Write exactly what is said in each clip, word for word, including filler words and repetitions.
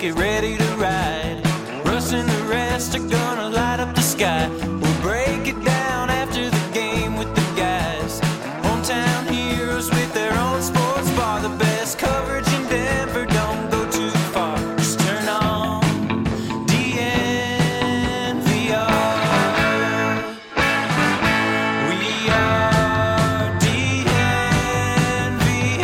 get ready to ride. Russ and the rest are gonna light up the sky. We'll break it down after the game with the guys. Hometown heroes with their own sports bar. The best coverage in Denver, don't go too far. Just turn on D N V R. We are D N V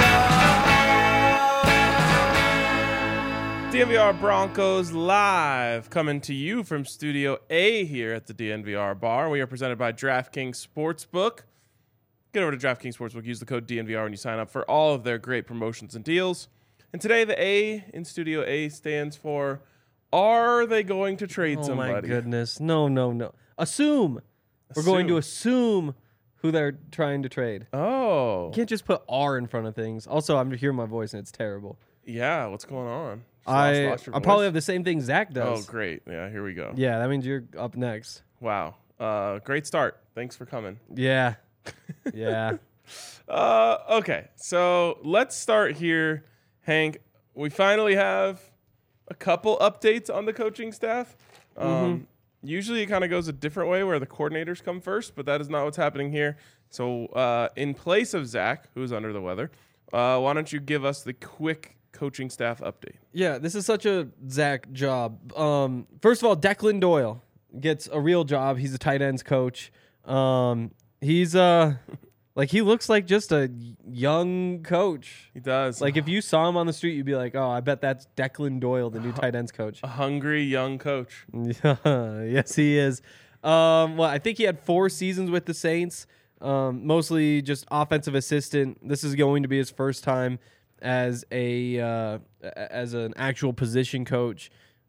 R. D N V R Broncos live, coming to you from Studio A here at the D N V R bar. We are presented by DraftKings Sportsbook. Get over to DraftKings Sportsbook. Use the code D N V R when you sign up for all of their great promotions and deals. And today, the A in Studio A stands for, are they going to trade Oh somebody? my goodness. No, no, no. Assume. We're going to assume who they're trying to trade. Oh. You can't just put R in front of things. Also, I'm hearing my voice and it's terrible. Yeah, what's going on? Just I lost- lost your I probably voice? have the same thing Zach Oh, does. great. Yeah, here we go. Yeah, that means you're up next. Wow. Uh, great start. Thanks for coming. Yeah. Yeah. Uh, okay, so let's start here, Hank. We finally have a couple updates on the coaching staff. Um, Mm-hmm. Usually it kind of goes a different way where the coordinators come first, but that is not what's happening here. So uh, in place of Zach, who's under the weather, uh, why don't you give us the quick coaching staff update? Yeah, this is such a Zach job. Um, first of all, Declan Doyle gets a real job. He's a tight ends coach. Um, he's uh, like he looks like just a young coach. He does. Like if you saw him on the street, you'd be like, "Oh, I bet that's Declan Doyle, the new tight ends coach." a hungry young coach. Yes, he is. Um, well, I think he had four seasons with the Saints, um, mostly just offensive assistant. This is going to be his first time as a uh, a- as an actual position coach.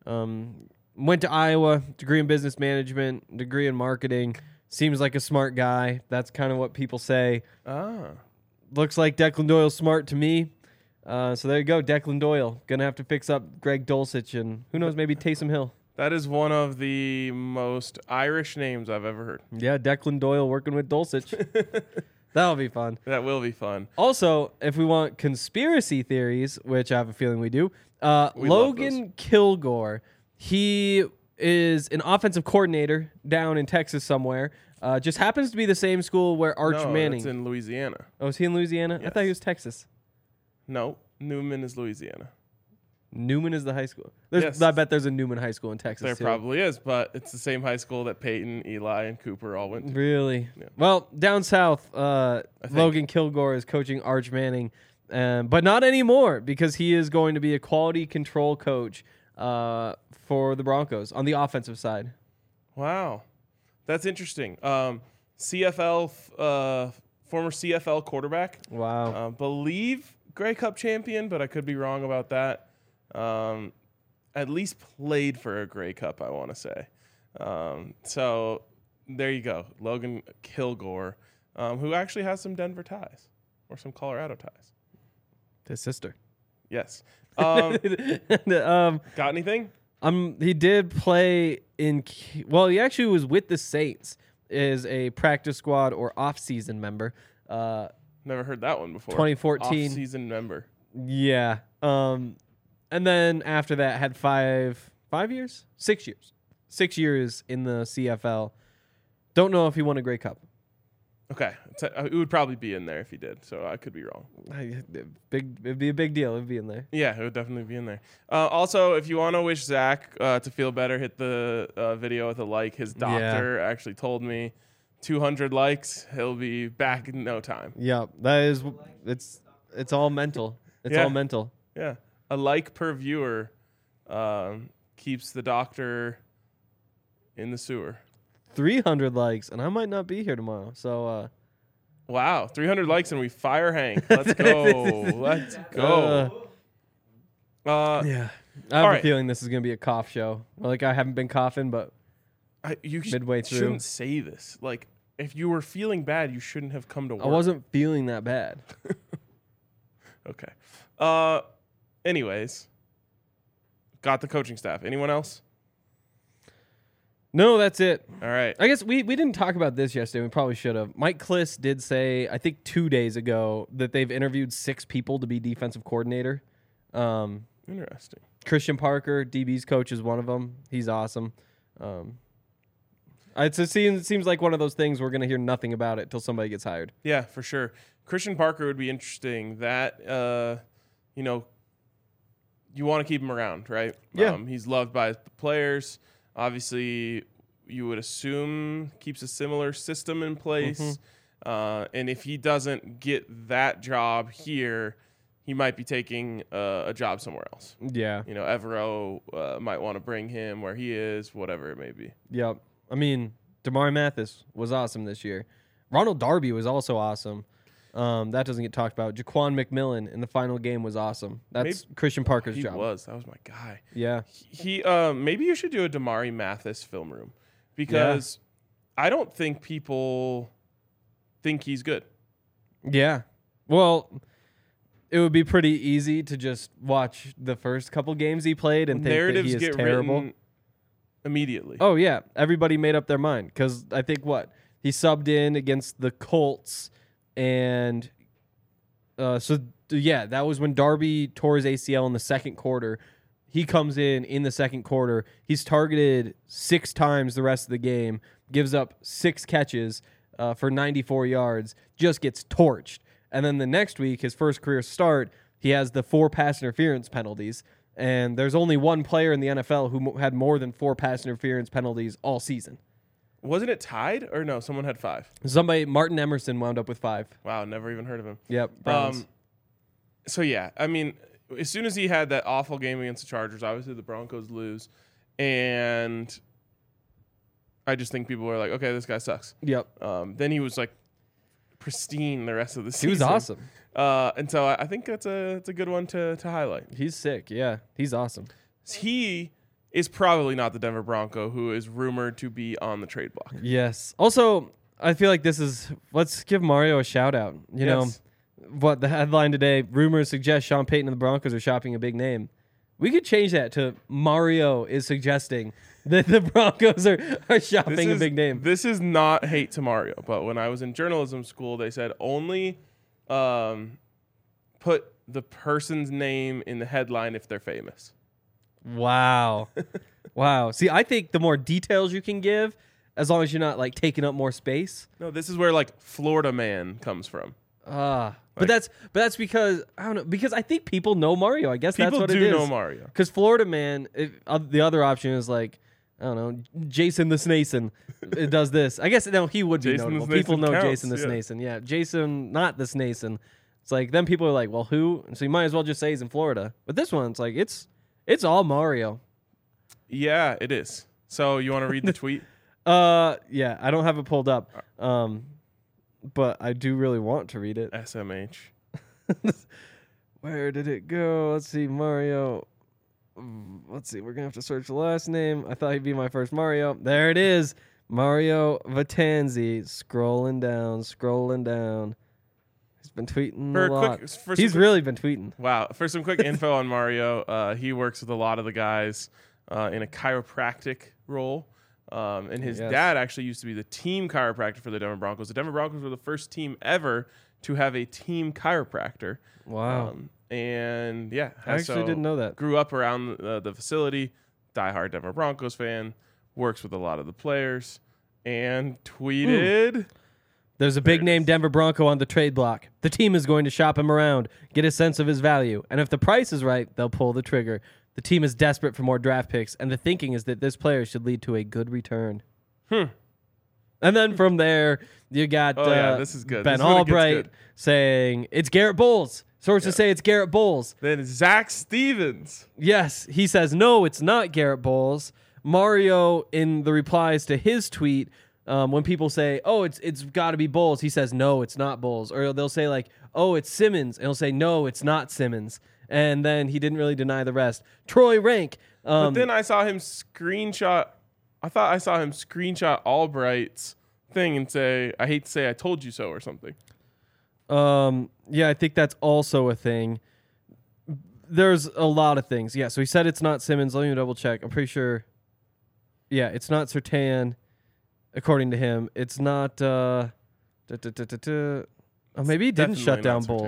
Um, went to Iowa, degree in business management, degree in marketing. Seems like a smart guy. That's kind of what people say. Ah. Looks like Declan Doyle's smart to me. Uh, so there you go, Declan Doyle. Gonna have to fix up Greg Dulcich and who knows, maybe Taysom Hill. That is one of the most Irish names I've ever heard. Yeah, Declan Doyle working with Dulcich. That'll be fun. That will be fun. Also, if we want conspiracy theories, which I have a feeling we do, uh, We love Logan Kilgore, he is an offensive coordinator down in Texas somewhere. Uh, just happens to be the same school where Arch no, Manning. it's in Louisiana. Oh, is he in Louisiana? I Yes. thought he was Texas. No, Newman is Louisiana. Newman is the high school. There's, Yes. I bet there's a Newman High School in Texas. There too. probably is, but it's the same high school that Peyton, Eli, and Cooper all went to. Really? Yeah. Well, down south, uh, I think. Logan Kilgore is coaching Arch Manning, um, but not anymore because he is going to be a quality control coach uh, for the Broncos on the offensive side. Wow, that's interesting. Um, C F L, uh, former C F L quarterback, Wow. uh, believe Grey Cup champion, but I could be wrong about that. Um, at least played for a Grey Cup, I want to say. Um, so there you go, Logan Kilgore, um, who actually has some Denver ties or some Colorado ties. His sister. Yes. Um, um, got anything? um, he did play in. K- Well, he actually was with the Saints. Is a practice squad or off-season member. Uh, Never heard that one before. twenty fourteen. Off-season member. Yeah. Um, and then after that, had five five years, six years, six years in the C F L. Don't know if he won a Grey Cup. Okay. It's a- it would probably be in there if he did, so I could be wrong. I- Big, it'd be a big deal. It'd be in there. Yeah, it would definitely be in there. Uh, also, if you want to wish Zach uh, to feel better, hit the uh, video with a like. His doctor actually told me two hundred likes, he'll be back in no time. Yeah, that is. It's it's all mental. It's Yeah. all mental. Yeah. A like per viewer um, keeps the doctor in the sewer. Three hundred likes, and I might not be here tomorrow. So. uh Wow, three hundred likes and we fire Hank. Let's go. Let's go. Uh, Yeah. I have All a right. feeling this is gonna be a cough show. Like I haven't been coughing, but I, you sh- Midway through. shouldn't say this. Like, if you were feeling bad, you shouldn't have come to work. I wasn't feeling that bad. Okay. Uh, anyways, got the coaching staff. Anyone else? No, that's it. All right. I guess we, we didn't talk about this yesterday. We probably should have. Mike Kliss did say, I think two days ago, that they've interviewed six people to be defensive coordinator. Um, Interesting. Christian Parker, D B's coach, is one of them. He's awesome. Um, it's, it seems it seems like one of those things we're gonna hear nothing about it till somebody gets hired. Yeah, for sure. Christian Parker would be interesting. That uh, you know, you want to keep him around, right? Yeah. Um, he's loved by the players. Obviously, you would assume keeps a similar system in place. Mm-hmm. Uh, and if he doesn't get that job here, he might be taking uh, a job somewhere else. Yeah. You know, Evero uh, might want to bring him where he is, whatever it may be. Yep. I mean, Damari Mathis was awesome this year. Ronald Darby was also awesome. Um, that doesn't get talked about. Jaquan McMillan in the final game was awesome. That's Maybe, Christian Parker's he job. He was. That was my guy. Yeah. He, he uh, maybe you should do a Damari Mathis film room because yeah. I don't think people think he's good. Yeah. Well, it would be pretty easy to just watch the first couple games he played and think Narratives that he is get terrible. Written immediately. Oh, yeah. Everybody made up their mind because I think what? He subbed in against the Colts and uh, so, yeah, that was when Darby tore his A C L in the second quarter. He comes in in the second quarter. He's targeted six times the rest of the game, gives up six catches uh, for ninety-four yards, just gets torched. And then the next week, his first career start, he has the four pass interference penalties. And there's only one player in the N F L who mo- had more than four pass interference penalties all season. Wasn't it tied? Or no, someone had five. Somebody, Martin Emerson, wound up with five. Wow, never even heard of him. Yep. Browns. Um, so, yeah, I mean, as soon as he had that awful game against the Chargers, obviously the Broncos lose. And I just think people were like, okay, this guy sucks. Yep. Um, then he was like pristine the rest of the season. He was awesome. Uh, and so I, I think that's a that's a good one to to highlight. He's sick. Yeah, he's awesome. He is probably not the Denver Bronco who is rumored to be on the trade block. Yes. Also, I feel like this is, let's give Mario a shout out. You Yes. know, what the headline today, rumors suggest Sean Payton and the Broncos are shopping a big name. We could change that to Mario is suggesting that the Broncos are, are shopping This a is- big name. This is not hate to Mario, but when I was in journalism school, they said only um, put the person's name in the headline if they're famous. Wow. Wow. See, I think the more details you can give, as long as you're not like taking up more space. No, this is where like Florida Man comes from. Ah, but Like- that's but that's because I don't know, because I think people know Mario. I guess that's People what do it is. know Mario. Because Florida Man, if, uh, the other option is like, I don't know, Jason the Snason it does this. I guess no, he would be Jason the notable. People Snason know counts, Jason the yeah. Snason. Yeah, Jason, not the Snason. It's like then people are like, well, who? So you might as well just say he's in Florida. But this one, it's like it's it's all Mario. Yeah, it is. So you want to read the tweet? Uh, yeah, I don't have it pulled up. Um, but I do really want to read it. S M H. Where did it go? Let's see, Mario. Mm, Let's see, we're gonna have to search the last name. I thought he'd be my first Mario. There it is, Mario Vatanzi. Scrolling down, scrolling down. He's been tweeting For a a lot. quick- for He's some- really been tweeting. Wow. For some quick info on Mario, uh, he works with a lot of the guys uh, in a chiropractic role. Um, and his Yes. dad actually used to be the team chiropractor for the Denver Broncos. The Denver Broncos were the first team ever to have a team chiropractor. Wow, Um, and yeah, I actually so didn't know that. Grew up around the, the facility, diehard Denver Broncos fan, works with a lot of the players, and tweeted. There's a big it name is. Denver Bronco on the trade block. The team is going to shop him around, get a sense of his value, and if the price is right, they'll pull the trigger. The team is desperate for more draft picks, and the thinking is that this player should lead to a good return. Hmm. And then from there, you got Oh, yeah, uh, this is good. Ben This is when it gets Albright good. saying it's Garrett Bowles. Sources say it's Garrett Bowles. Then Zach Stevens. Yes, he says no, it's not Garrett Bowles. Mario, in the replies to his tweet, um, when people say, "Oh, it's it's got to be Bowles," he says, "No, it's not Bowles." Or they'll say like, "Oh, it's Simmons," and he'll say, "No, it's not Simmons." And then he didn't really deny the rest. Troy Rank. Um, But then I saw him screenshot. I thought I saw him screenshot Albright's thing and say, "I hate to say I told you so" or something. Um, yeah, I think that's also a thing. There's a lot of things. Yeah, so he said it's not Simmons. Let me double check. I'm pretty sure. Yeah, it's not Sertan, according to him. It's not. Uh, da, da, da, da, da. Oh, maybe he didn't Definitely shut down not Bulls. Surtain.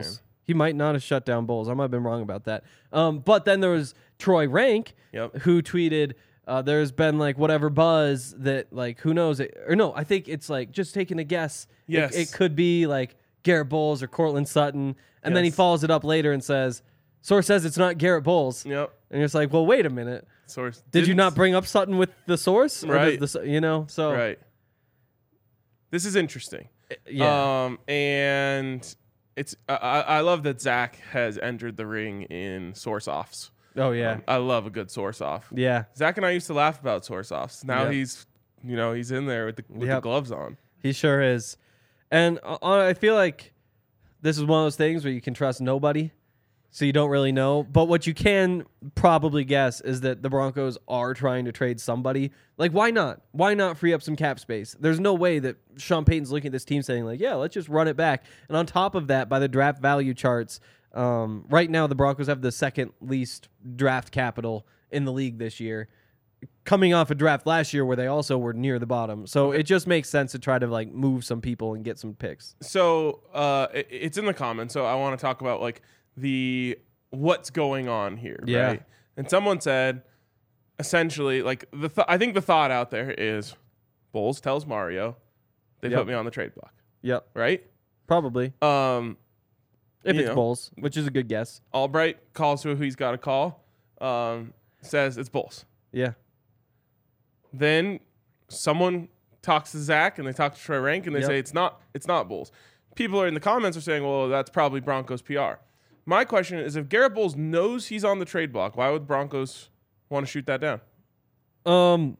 He might not have shut down Bulls. I might have been wrong about that. Um, but then there was Troy Rank, Yep. who tweeted, uh, there's been like whatever buzz that like, who knows it, or no, I think it's like just taking a guess. Yes. It, it could be like Garrett Bowles or Cortland Sutton. And then he Yes. follows it up later and says, source says it's not Garrett Bowles. Yep. And you're just like, well, wait a minute. Source. Did you didn't- not bring up Sutton with the source? Or Right. does the, you know, so Right. This is interesting. yeah. Um, and it's I, I I love that Zach has entered the ring in source offs. oh yeah. Um, I love a good source off. yeah. Zach and I used to laugh about source offs. Now Yep. he's, you know, he's in there with the with the Yep. gloves on. He sure is. And uh, I feel like this is one of those things where you can trust nobody, so you don't really know. But what you can probably guess is that the Broncos are trying to trade somebody. Like, why not? Why not free up some cap space? There's no way that Sean Payton's looking at this team saying, like, yeah, let's just run it back. And on top of that, by the draft value charts, um, right now the Broncos have the second least draft capital in the league this year, coming off a draft last year where they also were near the bottom. So it just makes sense to try to like move some people and get some picks. So uh, it, it's in the comments. So I want to talk about like the what's going on here. Yeah. Right? And someone said essentially like the th- I think the thought out there is Bulls tells Mario they Yep. put me on the trade block. Yep, Right. probably. Um, If you it's know. Bulls, which is a good guess. Albright calls who he's got to call. Um, says it's Bulls. Yeah. Then someone talks to Zach and they talk to Troy Rank and they Yep. say it's not it's not Bulls. People are in the comments are saying, well, that's probably Broncos P R. My question is, if Garrett Bowles knows he's on the trade block, why would Broncos want to shoot that down? Um,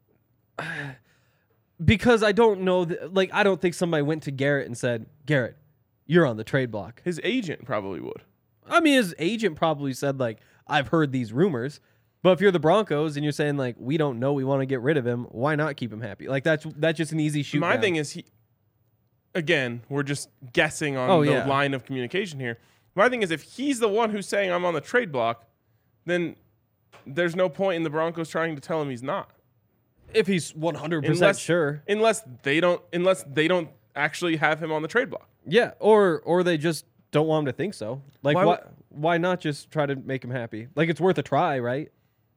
because I don't know, th- like, I don't think somebody went to Garrett and said, Garrett, you're on the trade block. His agent probably would. I mean, his agent probably said, like, I've heard these rumors. But if you're the Broncos and you're saying, like, we don't know, we want to get rid of him, why not keep him happy? Like, that's that's just an easy shoot. My down. thing is, he again, we're just guessing on Oh, the yeah. line of communication here. My thing is, if he's the one who's saying I'm on the trade block, then there's no point in the Broncos trying to tell him he's not. if he's one hundred percent Unless- sure. Unless they don't unless they don't actually have him on the trade block. Yeah, or or they just don't want him to think so. Like, Why why, would- why not just try to make him happy? Like, it's worth a try, right?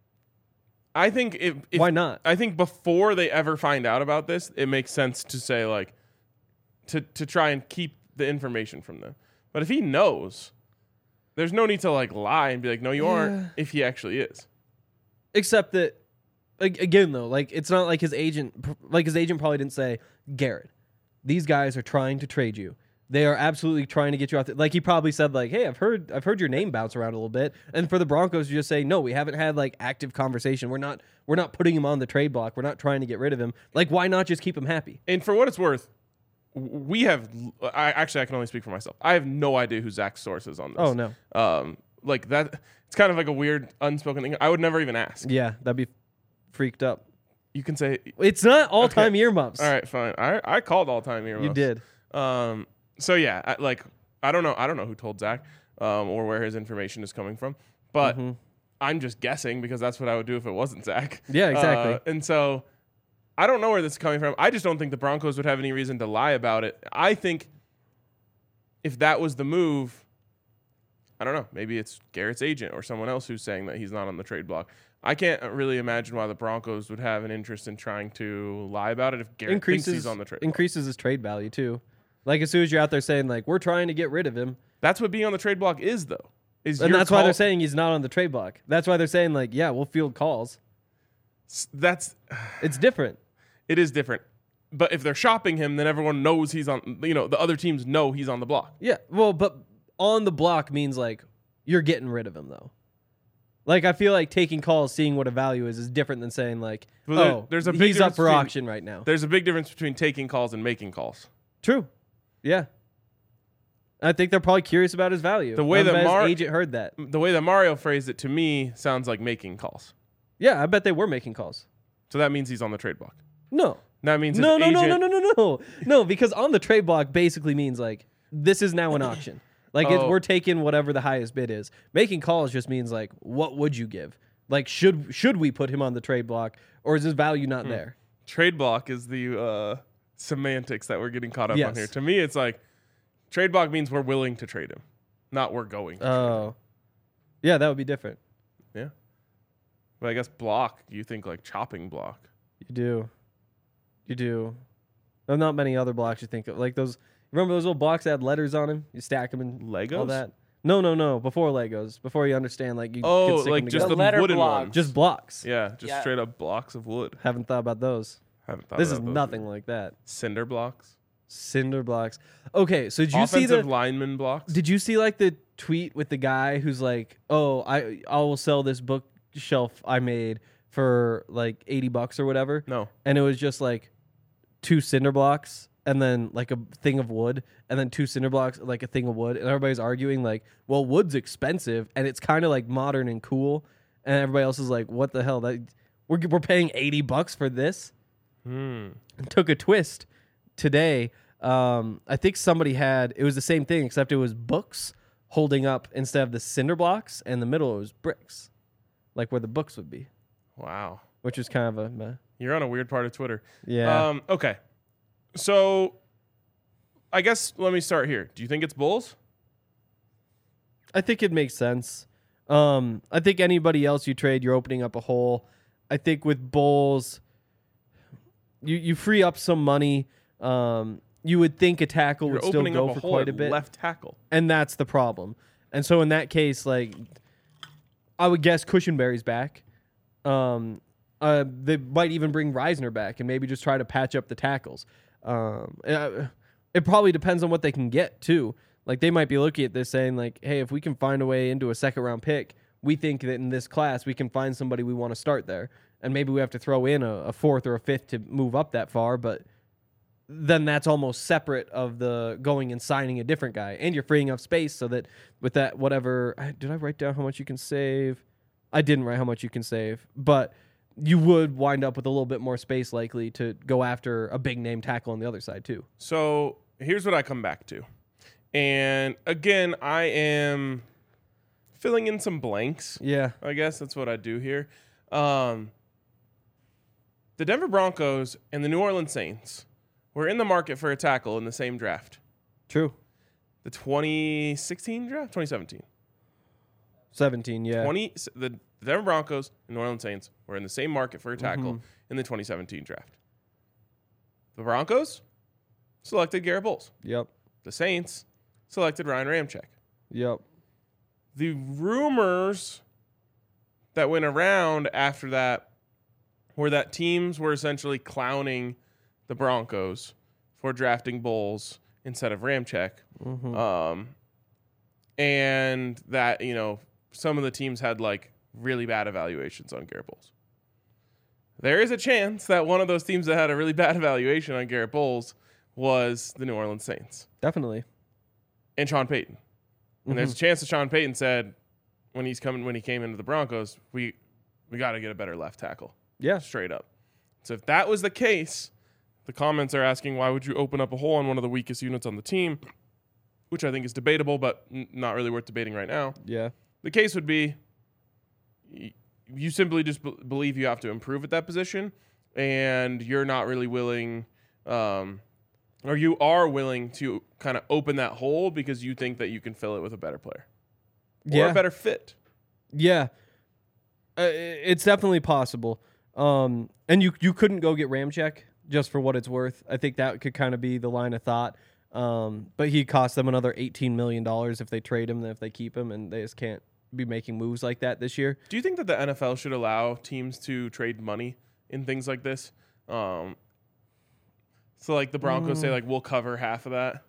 I think if, if Why not? I think before they ever find out about this, it makes sense to say like to to try and keep the information from them. But if he knows, there's no need to like lie and be like, no, you Yeah. aren't. If he actually is, Except that, ag- again, though, like, it's not like his agent, like, his agent probably didn't say, Garrett, these guys are trying to trade you. They are absolutely trying to get you out there. Like, he probably said, like, hey, I've heard I've heard your name bounce around a little bit. And for the Broncos to just say, no, we haven't had, like, active conversation. We're not we're not putting him on the trade block. We're not trying to get rid of him. Like, why not just keep him happy? and for what it's worth, w- we have. I actually I can only speak for myself. I have no idea who Zach's source is on this. Oh, no. Um, like that. It's kind of like a weird unspoken thing. I would never even ask. Yeah, that'd be freaked up. You can say, It's not all-time Okay. earmuffs. all right, fine. I I called all time here. You did. Um. So yeah, I, like I don't know. I don't know who told Zach, um, or where his information is coming from. But Mm-hmm. I'm just guessing because that's what I would do if it wasn't Zach. Yeah, exactly. Uh, and so I don't know where this is coming from. I just don't think the Broncos would have any reason to lie about it. I think if that was the move, I don't know. Maybe it's Garrett's agent or someone else who's saying that he's not on the trade block. I can't really imagine why the Broncos would have an interest in trying to lie about it if Garrett increases thinks he's on the trade block. increases his trade value too. Like, as soon as you're out there saying, like, we're trying to get rid of him, That's what being on the trade block is, though. Is and your that's why call- they're saying he's not on the trade block. That's why they're saying, like, yeah, we'll field calls. that's It's different. it is different. But if they're shopping him, then everyone knows he's on. You know, the other teams know he's on the block. Yeah, well, but on the block means, like, you're getting rid of him, though. Like, I feel like taking calls, seeing what a value is, is different than saying, like, Well, there- oh, there's a big he's up difference for between- auction right now. There's a big difference between taking calls and making calls. True. Yeah. I think they're probably curious about his value. The way I that bet Mar- his agent heard that. The way that Mario phrased it to me sounds like making calls. Yeah, I bet they were making calls. So that means he's on the trade block. No. That means his No, no, no, agent, no, no, no, no. No, because on the trade block basically means, like, this is now an auction. Like, it, Oh. we're taking whatever the highest bid is. Making calls just means, like, what would you give? Like, should should we put him on the trade block, or is his value not there? Trade block is the uh, semantics that we're getting caught up on Yes. here. To me, it's like trade block means we're willing to trade him. Not we're going. to Oh, yeah, that would be different. trade him. Yeah. But I guess block. You think like chopping block? You do, you do. There's not many other blocks you think of, like those. Remember those little blocks that had letters on them? You stack them and Legos? all that. No, no, no. Before Legos, before you understand, like you. Oh, could stick like them just together. the letter wooden blocks. ones. just blocks. yeah, just Yeah. straight up blocks of wood. Haven't thought about those. Haven't thought This is about those nothing either. like that. Cinder blocks. Cinder blocks. Okay, so did you see Offensive the? lineman blocks. Did you see like the tweet with the guy who's like, "Oh, I I will sell this bookshelf I made for like eighty bucks or whatever," no. and it was just like two cinder blocks and then like a thing of wood and then two cinder blocks like a thing of wood, and everybody's arguing like, "Well, wood's expensive and it's kind of like modern and cool," and everybody else is like, "What the hell? That we're we're paying eighty bucks for this?" Hmm. And took a twist today. Um, I think somebody had it was the same thing except it was books holding up instead of the cinder blocks, and the middle was bricks, like where the books would be, Wow. which is kind of a meh. You're on a weird part of Twitter. Yeah. Um, okay. So I guess let me start here. Do you think it's Bulls? I think it makes sense. Um, I think anybody else you trade, you're opening up a hole. I think with Bulls, you you free up some money. Um, you would think a tackle You're would still opening go up a for hole quite at a bit. left tackle. And that's the problem. And so in that case, like, I would guess Cushenberry's back. Um, uh, they might even bring Reisner back and maybe just try to patch up the tackles. Um, uh, it probably depends on what they can get too. Like they might be looking at this saying like, hey, if we can find a way into a second round pick, we think that in this class we can find somebody we want to start there. And maybe we have to throw in a, a fourth or a fifth to move up that far, but then that's almost separate of the going and signing a different guy. And you're freeing up space so that with that, whatever, I- did I write down how much you can save? I didn't write how much you can save, but you would wind up with a little bit more space likely to go after a big name tackle on the other side too. So here's what I come back to. And again, I am filling in some blanks. Yeah. I guess that's what I do here. Um, the Denver Broncos and the New Orleans Saints were in the market for a tackle in the same draft. True. The twenty sixteen draft? twenty seventeen. seventeen, yeah. twenty the Denver Broncos and New Orleans Saints were in the same market for a tackle Mhm. in the twenty seventeen draft. The Broncos selected Garrett Bowles. Yep. The Saints selected Ryan Ramczyk. Yep. The rumors that went around after that were that teams were essentially clowning the Broncos for drafting Bowles instead of Ramczyk. Mhm. Um, and that, you know, some of the teams had like really bad evaluations on Garrett Bowles. There is a chance that one of those teams that had a really bad evaluation on Garrett Bowles was the New Orleans Saints Definitely. and Sean Payton. And there's a chance that Sean Payton said when he's coming when he came into the Broncos, we we got to get a better left tackle. Yeah. Straight up. So if that was the case, the comments are asking why would you open up a hole on one of the weakest units on the team, which I think is debatable, but n- not really worth debating right now. Yeah. The case would be y- you simply just b- believe you have to improve at that position, and you're not really willing, um, or you are willing to kind of open that hole because you think that you can fill it with a better player or Yeah. a better fit. Yeah, uh, i- it's definitely possible. Um, and you you couldn't go get Ramczyk just for what it's worth. I think that could kind of be the line of thought. Um, but he cost them another eighteen million dollars if they trade him than if they keep him, and they just can't be making moves like that this year. Do you think that the N F L should allow teams to trade money in things like this? Um, so like the Broncos say, like, we'll cover half of that,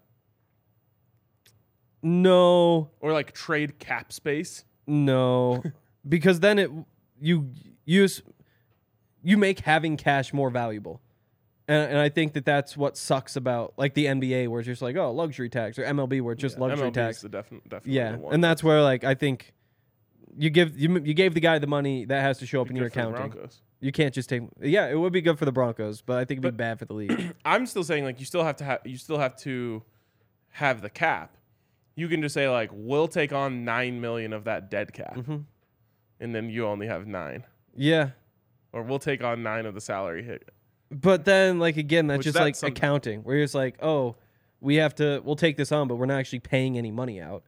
No, or like trade cap space. no, because then it you use you make having cash more valuable. And, and I think that that's what sucks about like the N B A where it's just like, oh, luxury tax, or M L B where it's just Yeah, luxury M L B is tax. the defi- definitely Yeah, the one. and that's where like I think you give you you gave the guy the money that has to show up in Good your for the accounting. Broncos. You can't just take. Yeah, it would be good for the Broncos, but I think it'd be bad for the league. I'm still saying like you still have to have you still have to have the cap. You can just say like we'll take on nine million of that dead cap, Mm-hmm. and then you only have nine, Yeah, or we'll take on nine of the salary hit. but then like again, that's Which just that's like some- accounting, where you're just like, oh, we have to, we'll take this on, but we're not actually paying any money out.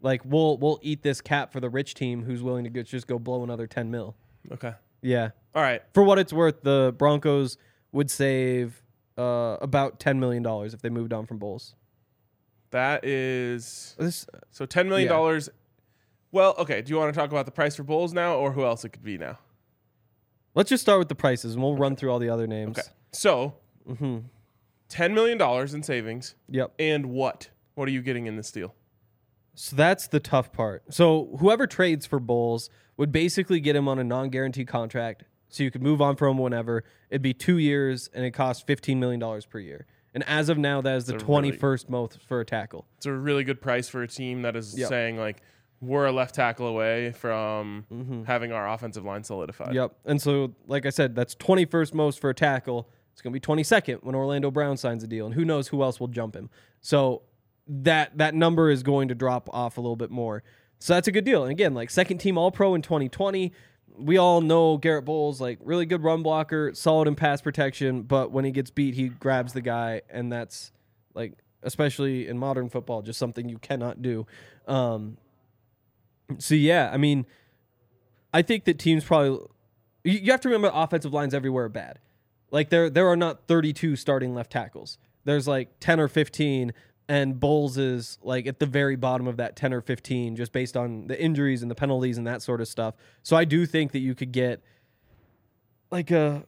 Like we'll we'll eat this cap for the rich team who's willing to go, just go blow another ten mil. Okay. Yeah. All right. For what it's worth, the Broncos would save uh, about ten million dollars if they moved on from Bowles. That is This, so ten million dollars. Yeah. Well, okay. Do you want to talk about the price for Bowles now, or who else it could be now? let's just start with the prices, and we'll run through all the other names. Okay. So, Mm-hmm. ten million dollars in savings. Yep. And what? What are you getting in this deal? So that's the tough part. So whoever trades for Bowles would basically get him on a non-guaranteed contract, so you could move on from him whenever. It'd be two years, and it costs fifteen million dollars per year. And as of now, that is the It's a twenty-first most for a tackle. It's a really good price for a team that is Yep. saying, like, we're a left tackle away from having our offensive line solidified. Yep. And so, like I said, that's twenty-first most for a tackle. It's going to be twenty-second when Orlando Brown signs a deal, and who knows who else will jump him. So that that number is going to drop off a little bit more. So that's a good deal. And again, like second team All-Pro in twenty twenty, we all know Garrett Bowles, like really good run blocker, solid in pass protection, but when he gets beat, he grabs the guy, and that's like, especially in modern football, just something you cannot do. Um, so yeah, I mean, I think that teams probably, you, you have to remember offensive lines everywhere are bad. Like there there are not thirty-two starting left tackles. There's like ten or fifteen, and Bowles is like at the very bottom of that ten or fifteen, just based on the injuries and the penalties and that sort of stuff. So I do think that you could get like a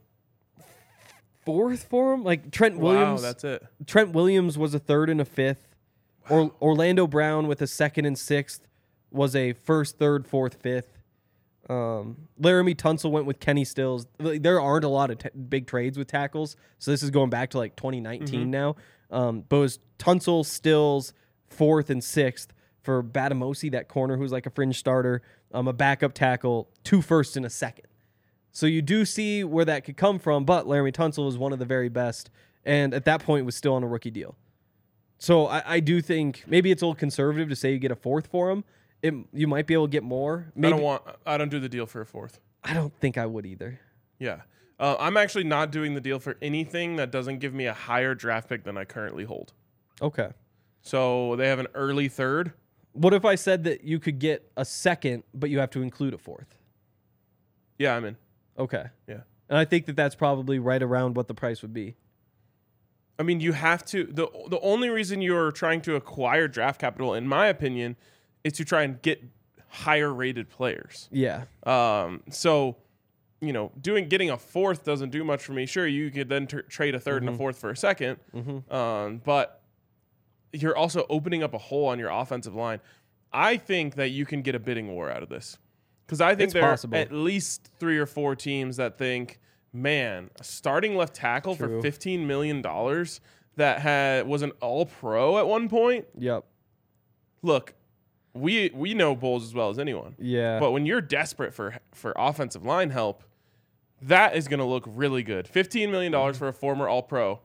fourth for him. Like Trent Williams. Wow, that's it. Trent Williams was a third and a fifth. Or Orlando Brown with a second and sixth was a first, third, fourth, fifth. Um, Laramie Tunsil went with Kenny Stills. Like, there aren't a lot of t- big trades with tackles, so this is going back to like twenty nineteen mm-hmm. now. Um, but it was Tunsil, Stills, fourth and sixth for Batamosi, that corner who's like a fringe starter, um, a backup tackle, two firsts and a second. So you do see where that could come from, but Laramie Tunsil was one of the very best, and at that point was still on a rookie deal. So I, I do think maybe it's a little conservative to say you get a fourth for him. It, you might be able to get more. Maybe. I don't want. I don't do the deal for a fourth. I don't think I would either. Yeah, uh, I'm actually not doing the deal for anything that doesn't give me a higher draft pick than I currently hold. Okay. So they have an early third. What if I said that you could get a second, but you have to include a fourth? Yeah, I'm in. Okay. Yeah, and I think that that's probably right around what the price would be. I mean, you have to. the The only reason you're trying to acquire draft capital, in my opinion, is to try and get higher rated players. Yeah. Um. So, you know, doing getting a fourth doesn't do much for me. Sure, you could then t- trade a third mm-hmm. and a fourth for a second. Mm-hmm. Um. But you're also opening up a hole on your offensive line. I think that you can get a bidding war out of this, because I think it's there possible. are at least three or four teams that think, man, a starting left tackle True. for fifteen million dollars that had was an all-pro at one point. Yep. Look, we we know Bowles as well as anyone. Yeah. But when you're desperate for for offensive line help, that is going to look really good. fifteen million dollars mm-hmm. for a former all-pro.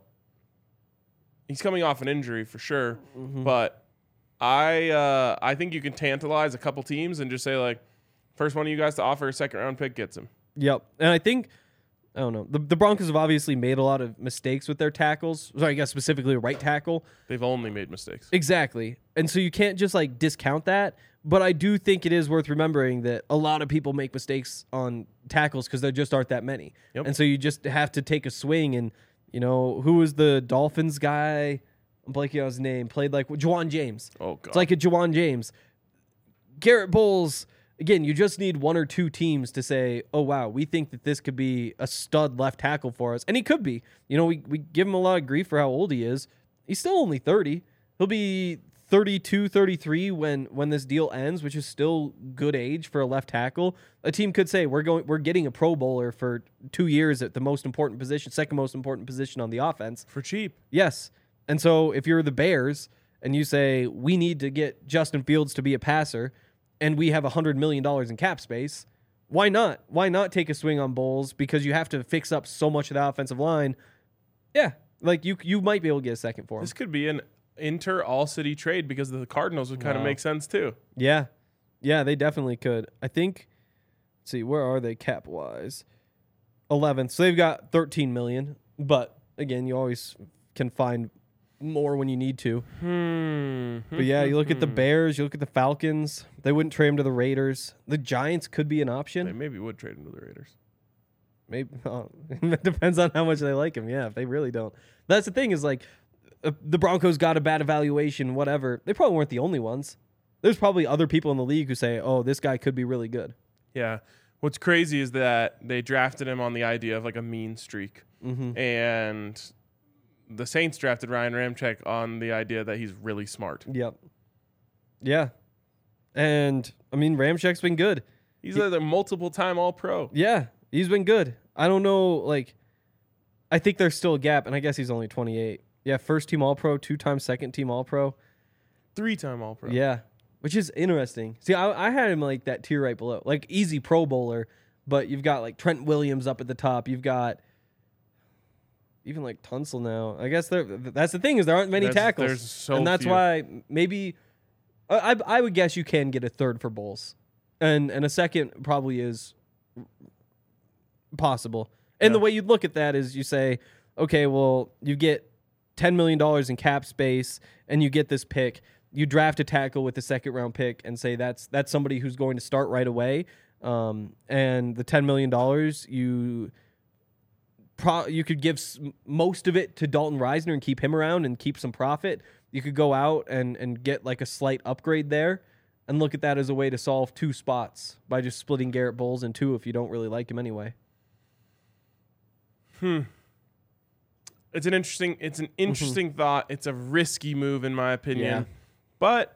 He's coming off an injury for sure, mm-hmm. but I uh, I think you can tantalize a couple teams and just say, like, first one of you guys to offer a second-round pick gets him. Yep. And I think, I don't know, the, the Broncos have obviously made a lot of mistakes with their tackles. Sorry, I guess specifically a right tackle. They've only made mistakes. Exactly. And so you can't just like discount that. But I do think it is worth remembering that a lot of people make mistakes on tackles because there just aren't that many. Yep. And so you just have to take a swing. And, you know, who was the Dolphins guy? I'm blanking on his name. Played like Juwan James. Oh, God. It's like a Juwan James. Garrett Bowles. Again, you just need one or two teams to say, oh, wow, we think that this could be a stud left tackle for us. And he could be. You know, we, we give him a lot of grief for how old he is. He's still only thirty. He'll be thirty-two, thirty-three when when this deal ends, which is still good age for a left tackle. A team could say, we're going, we're getting a Pro Bowler for two years at the most important position, second most important position on the offense. For cheap. Yes. And so if you're the Bears and you say, we need to get Justin Fields to be a passer, and we have one hundred million dollars in cap space, why not? Why not take a swing on Bowles? Because you have to fix up so much of the offensive line. Yeah, like you you might be able to get a second for him. This could be an inter-all-city trade because the Cardinals would kind of Wow. make sense too. Yeah. Yeah, they definitely could. I think, let's see, where are they cap-wise? eleventh. So they've got thirteen million dollars. But, again, you always can find more when you need to. Hmm. But yeah, you look at the Bears, you look at the Falcons. They wouldn't trade him to the Raiders. The Giants could be an They option. maybe would trade him to the Raiders. Maybe oh, it depends on how much they like him. Yeah, if they really don't. That's the thing is like uh, the Broncos got a bad evaluation, whatever. They probably weren't the only ones. There's probably other people in the league who say, "Oh, this guy could be really good." Yeah. What's crazy is that they drafted him on the idea of like a mean streak. Mm-hmm. And the Saints drafted Ryan Ramczyk on the idea that he's really smart. Yep. Yeah. And I mean, Ramczyk's been good. He's he, a multiple time All Pro. Yeah, he's been good. I don't know, like, I think there's still a gap, and I guess he's only twenty-eight. Yeah, first team All Pro, two time second team All Pro. Three time All Pro. Yeah, which is interesting. See, I, I had him like that tier right below, like easy Pro Bowler, but you've got like Trent Williams up at the top. You've got even like Tunsil now. I guess there. That's the thing is there aren't many There's, tackles, there's so and that's few. why maybe I, I I would guess you can get a third for Bulls, and and a second probably is possible. And Yeah. the way you'd look at that is you say, okay, well you get ten million dollars in cap space, and you get this pick. You draft a tackle with the second round pick, and say that's that's somebody who's going to start right away. Um, and the ten million dollars you. Pro, you could give s- most of it to Dalton Reisner and keep him around and keep some profit. You could go out and, and get like a slight upgrade there and look at that as a way to solve two spots by just splitting Garrett Bowles in two if you don't really like him anyway. Hmm. It's an interesting it's an interesting thought. It's a risky move in my opinion. Yeah. But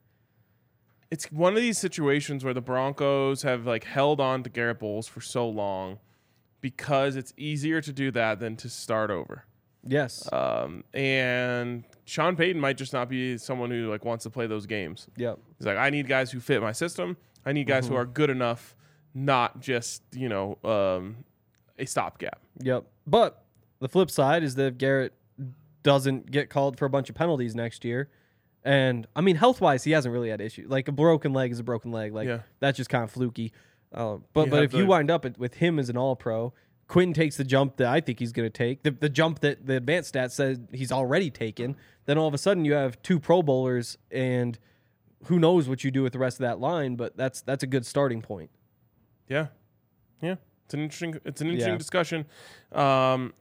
it's one of these situations where the Broncos have like held on to Garrett Bowles for so long because it's easier to do that than to start over. Yes. Um, and Sean Payton might just not be someone who like wants to play those games. Yep. He's like, I need guys who fit my system. I need guys Mm-hmm. who are good enough, not just, you know, um, a stopgap. Yep. But the flip side is that if Garrett doesn't get called for a bunch of penalties next year, and I mean, health wise, he hasn't really had issues. Like a broken leg is a broken leg. Like Yeah. that's just kind of fluky. Uh, but You but have if you the- wind up at, with him as an All Pro, Quinn takes the jump that I think he's going to take, the, the jump that the advanced stats says he's already taken. Then all of a sudden you have two Pro Bowlers, and who knows what you do with the rest of that line? But that's that's a good starting point. Yeah, yeah. It's an interesting. It's an interesting Yeah. discussion. Um,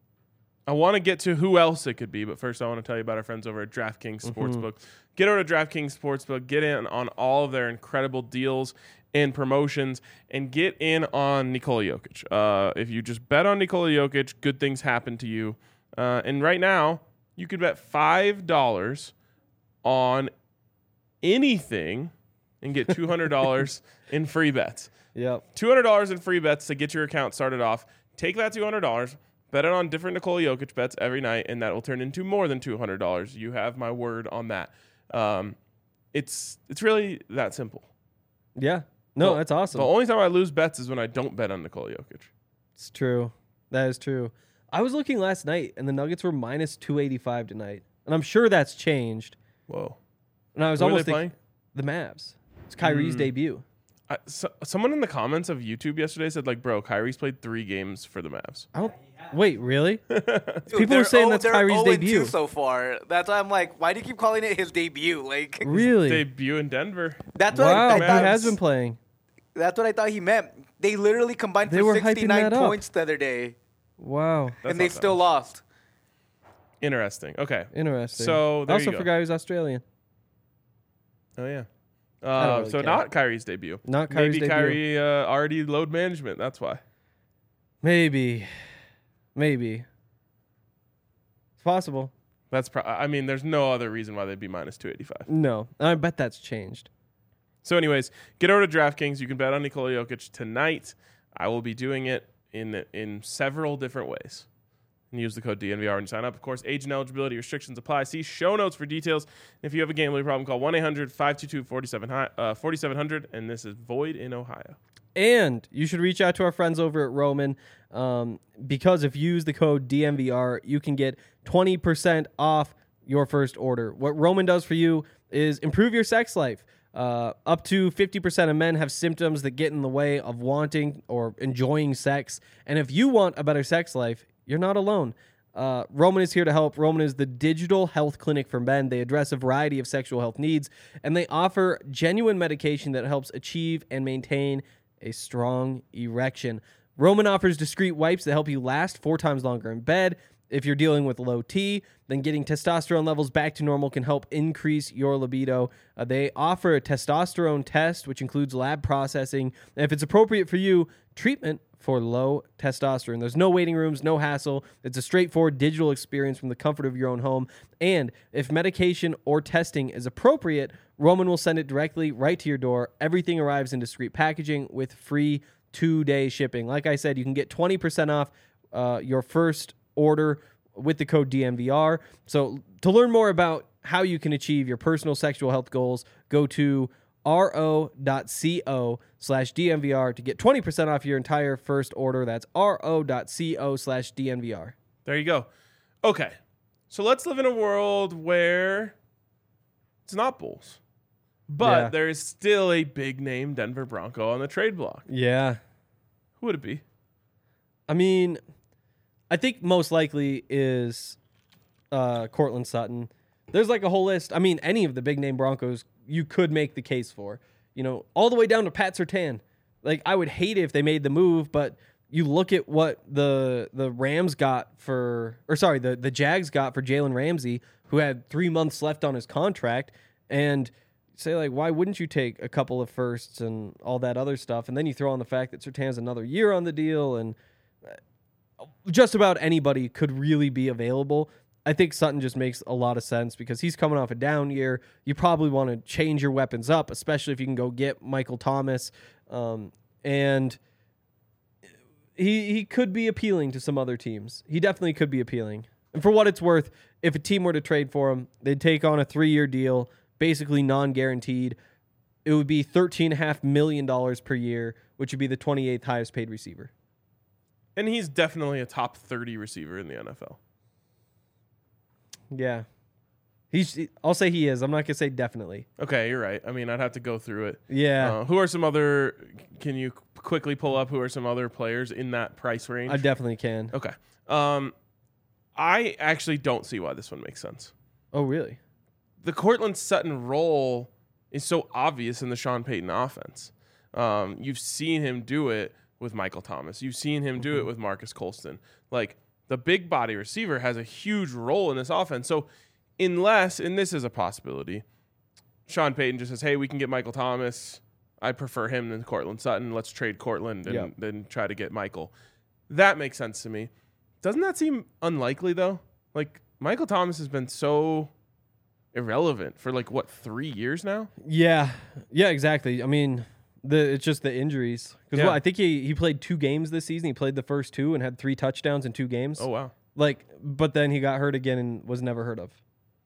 I want to get to who else it could be, but first I want to tell you about our friends over at DraftKings Sportsbook. Get over to DraftKings Sportsbook. Get in on all of their incredible deals and promotions, and get in on Nikola Jokic. Uh, if you just bet on Nikola Jokic, good things happen to you. Uh, and right now, you could bet five dollars on anything and get two hundred dollars in free bets. Yep. two hundred dollars in free bets to get your account started off. Take that two hundred dollars, bet it on different Nikola Jokic bets every night, and that will turn into more than two hundred dollars. You have my word on that. Um, it's it's really that simple. Yeah. No, Well, that's awesome. The only time I lose bets is when I don't bet on Nikola Jokic. It's true. That is true. I was looking last night, and the Nuggets were minus two eighty-five tonight. And I'm sure that's changed. Whoa. And I was Who are almost they thinking, the Mavs. It's Kyrie's Mm. debut. I, so, someone in the comments of YouTube yesterday said, like, bro, Kyrie's played three games for the Mavs. I don't. Wait, really? Dude, People they're are saying oh- that's they're Kyrie's oh and two debut. so far. That's why I'm like, why do you keep calling it his debut? Like, Really? Debut in Denver. that's what Wow, I, I he thought. has been playing. That's what I thought he meant. They literally combined They for were hyping sixty-nine that up. points the other day, Wow. That's and they not that still much. lost. Interesting. Okay. Interesting. So, there I also you go. forgot he was Australian. Oh, yeah. I don't Uh, really so care. not Kyrie's debut. Not Kyrie's Maybe debut. Kyrie uh, already load management. That's why. Maybe. Maybe. It's possible. That's. Pro- I mean, there's no other reason why they'd be minus two eighty-five. No. I bet that's changed. So, anyways, get over to DraftKings. You can bet on Nikola Jokic tonight. I will be doing it in in several different ways. And use the code D N V R when you sign up. Of course, age and eligibility restrictions apply. See show notes for details. If you have a gambling problem, call one eight hundred five two two four seven hundred. And this is void in Ohio. And you should reach out to our friends over at Roman um, because if you use the code D M V R, you can get twenty percent off your first order. What Roman does for you is improve your sex life. Uh, up to fifty percent of men have symptoms that get in the way of wanting or enjoying sex. And if you want a better sex life, you're not alone. Uh, Roman is here to help. Roman is the digital health clinic for men. They address a variety of sexual health needs, and they offer genuine medication that helps achieve and maintain a strong erection. Roman offers discreet wipes that help you last four times longer in bed. If you're dealing with low T, then getting testosterone levels back to normal can help increase your libido. Uh, they offer a testosterone test, which includes lab processing. And if it's appropriate for you, treatment for low testosterone. There's no waiting rooms, no hassle. It's a straightforward digital experience from the comfort of your own home. And if medication or testing is appropriate, Roman will send it directly right to your door. Everything arrives in discreet packaging with free two-day shipping. Like I said, you can get twenty percent off uh, your first order with the code D N V R. So to learn more about how you can achieve your personal sexual health goals, go to ro.co slash DNVR to get twenty percent off your entire first order. That's ro.co slash DNVR. There you go. Okay. So let's live in a world where it's not Bulls, but Yeah. there is still a big name Denver Bronco on the trade block. Yeah. Who would it be? I mean, I think most likely is uh, Cortland Sutton. There's like a whole list. I mean, any of the big name Broncos you could make the case for. You know, all the way down to Pat Surtain. Like, I would hate it if they made the move, but you look at what the the Rams got for, or sorry, the, the Jags got for Jalen Ramsey, who had three months left on his contract, and say, like, why wouldn't you take a couple of firsts and all that other stuff? And then you throw on the fact that Surtain's another year on the deal, and just about anybody could really be available. I think Sutton just makes a lot of sense because he's coming off a down year. You probably want to change your weapons up, especially if you can go get Michael Thomas. Um, and he he could be appealing to some other teams. He definitely could be appealing. And for what it's worth, if a team were to trade for him, they'd take on a three-year deal, basically non-guaranteed. It would be thirteen point five million dollars per year, which would be the twenty-eighth highest paid receiver. And he's definitely a top thirty receiver in the N F L. Yeah. He's. I'll say he is. I'm not going to say definitely. Okay, you're right. I mean, I'd have to go through it. Yeah. Uh, who are some other, can you quickly pull up who are some other players in that price range? I definitely can. Okay. Um, I actually don't see why this one makes sense. Oh, really? The Cortland Sutton role is so obvious in the Sean Payton offense. Um, you've seen him do it with Michael Thomas. You've seen him do it with Marcus Colston. Like, the big body receiver has a huge role in this offense. So unless, and this is a possibility, Sean Payton just says, hey, we can get Michael Thomas. I prefer him than Cortland Sutton. Let's trade Cortland and Yep. then try to get Michael. That makes sense to me. Doesn't that seem unlikely, though? Like, Michael Thomas has been so irrelevant for, like, what, three years now? Yeah. Yeah, exactly. I mean, the it's just the injuries. Because Yeah. well, I think he, he played two games this season. He played the first two and had three touchdowns in two games. Oh, wow. Like, but then he got hurt again and was never heard of.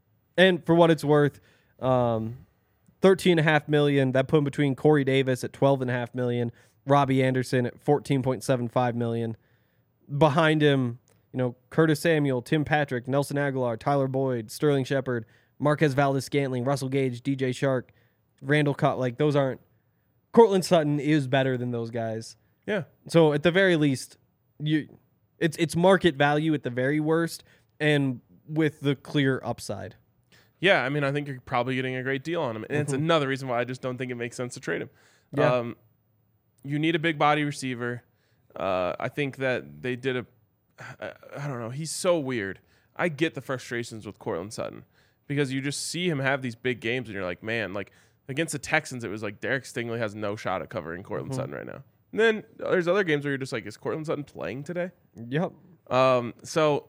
And for what it's worth, um, thirteen and a half million. That put him between Corey Davis at twelve and a half million, Robbie Anderson at fourteen point seven five million. Behind him, you know, Curtis Samuel, Tim Patrick, Nelson Aguilar, Tyler Boyd, Sterling Shepard, Marquez Valdes-Scantling, Russell Gage, D J Shark, Randall Cobb. Like, those aren't. Cortland Sutton is better than those guys. Yeah. So at the very least, you, it's it's market value at the very worst, and with the clear upside. Yeah, I mean, I think you're probably getting a great deal on him. And it's another reason why I just don't think it makes sense to trade him. Yeah. Um, you need a big body receiver. Uh, I think that they did a, I, I don't know, he's so weird. I get the frustrations with Cortland Sutton because you just see him have these big games and you're like, man, like against the Texans, it was like Derek Stingley has no shot at covering Cortland Mm-hmm. Sutton right now. And then there's other games where you're just like, is Cortland Sutton playing today? Yep. Um, so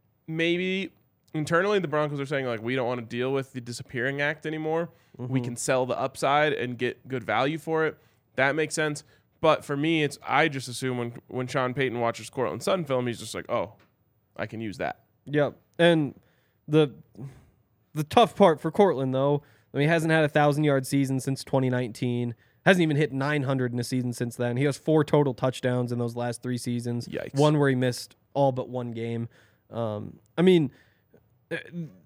maybe internally the Broncos are saying, like, we don't want to deal with the disappearing act anymore. We can sell the upside and get good value for it. That makes sense. But for me, it's I just assume when when Sean Payton watches Cortland Sutton film, he's just like, oh, I can use that. Yep. And the the tough part for Cortland, though, I mean, he hasn't had a thousand yard season since twenty nineteen. Hasn't even hit nine hundred in a season since then. He has four total touchdowns in those last three seasons. Yikes. One where he missed all but one game. Um, I mean, uh,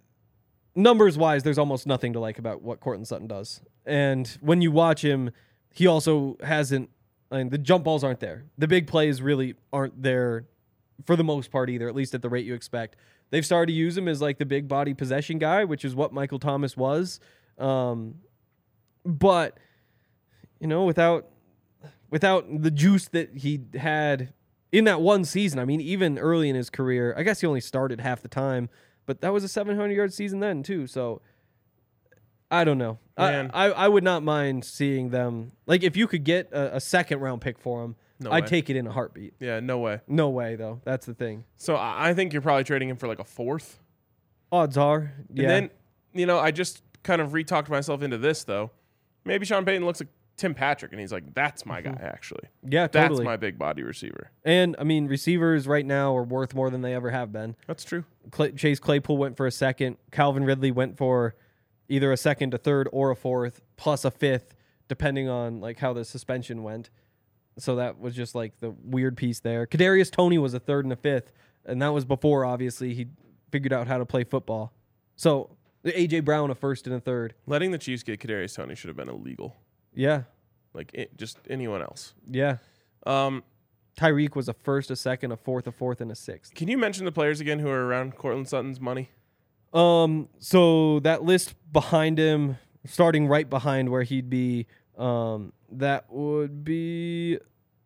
numbers wise, there's almost nothing to like about what Cortland Sutton does. And when you watch him, he also hasn't. I mean, the jump balls aren't there. The big plays really aren't there for the most part either, at least at the rate you expect. They've started to use him as like the big body possession guy, which is what Michael Thomas was. Um, but, you know, without without the juice that he had in that one season, I mean, even early in his career, I guess he only started half the time, but that was a seven hundred yard season then too. So I don't know. I, I I would not mind seeing them. Like, if you could get a, a second round pick for him, No I'd way. take it in a heartbeat. Yeah, no way. No way, though. That's the thing. So I I think you're probably trading him for like a fourth. Odds are, yeah. And then, you know, I just kind of re-talked myself into this, though. Maybe Sean Payton looks like Tim Patrick, and he's like, that's my guy, actually. yeah, That's totally. my big body receiver. And, I mean, receivers right now are worth more than they ever have been. That's true. Clay, Chase Claypool went for a second. Calvin Ridley went for either a second, a third, or a fourth, plus a fifth, depending on like how the suspension went. So that was just like the weird piece there. Kadarius Toney was a third and a fifth, and that was before, obviously, he figured out how to play football. So A J Brown a first and a third. Letting the Chiefs get Kadarius Toney should have been illegal. Yeah, Like, it, just anyone else. yeah. Um, Tyreek was a first, a second, a fourth, a fourth, and a sixth. can you mention the players again who are around Cortland Sutton's money? Um, so that list behind him, starting right behind where he'd be, um, that would be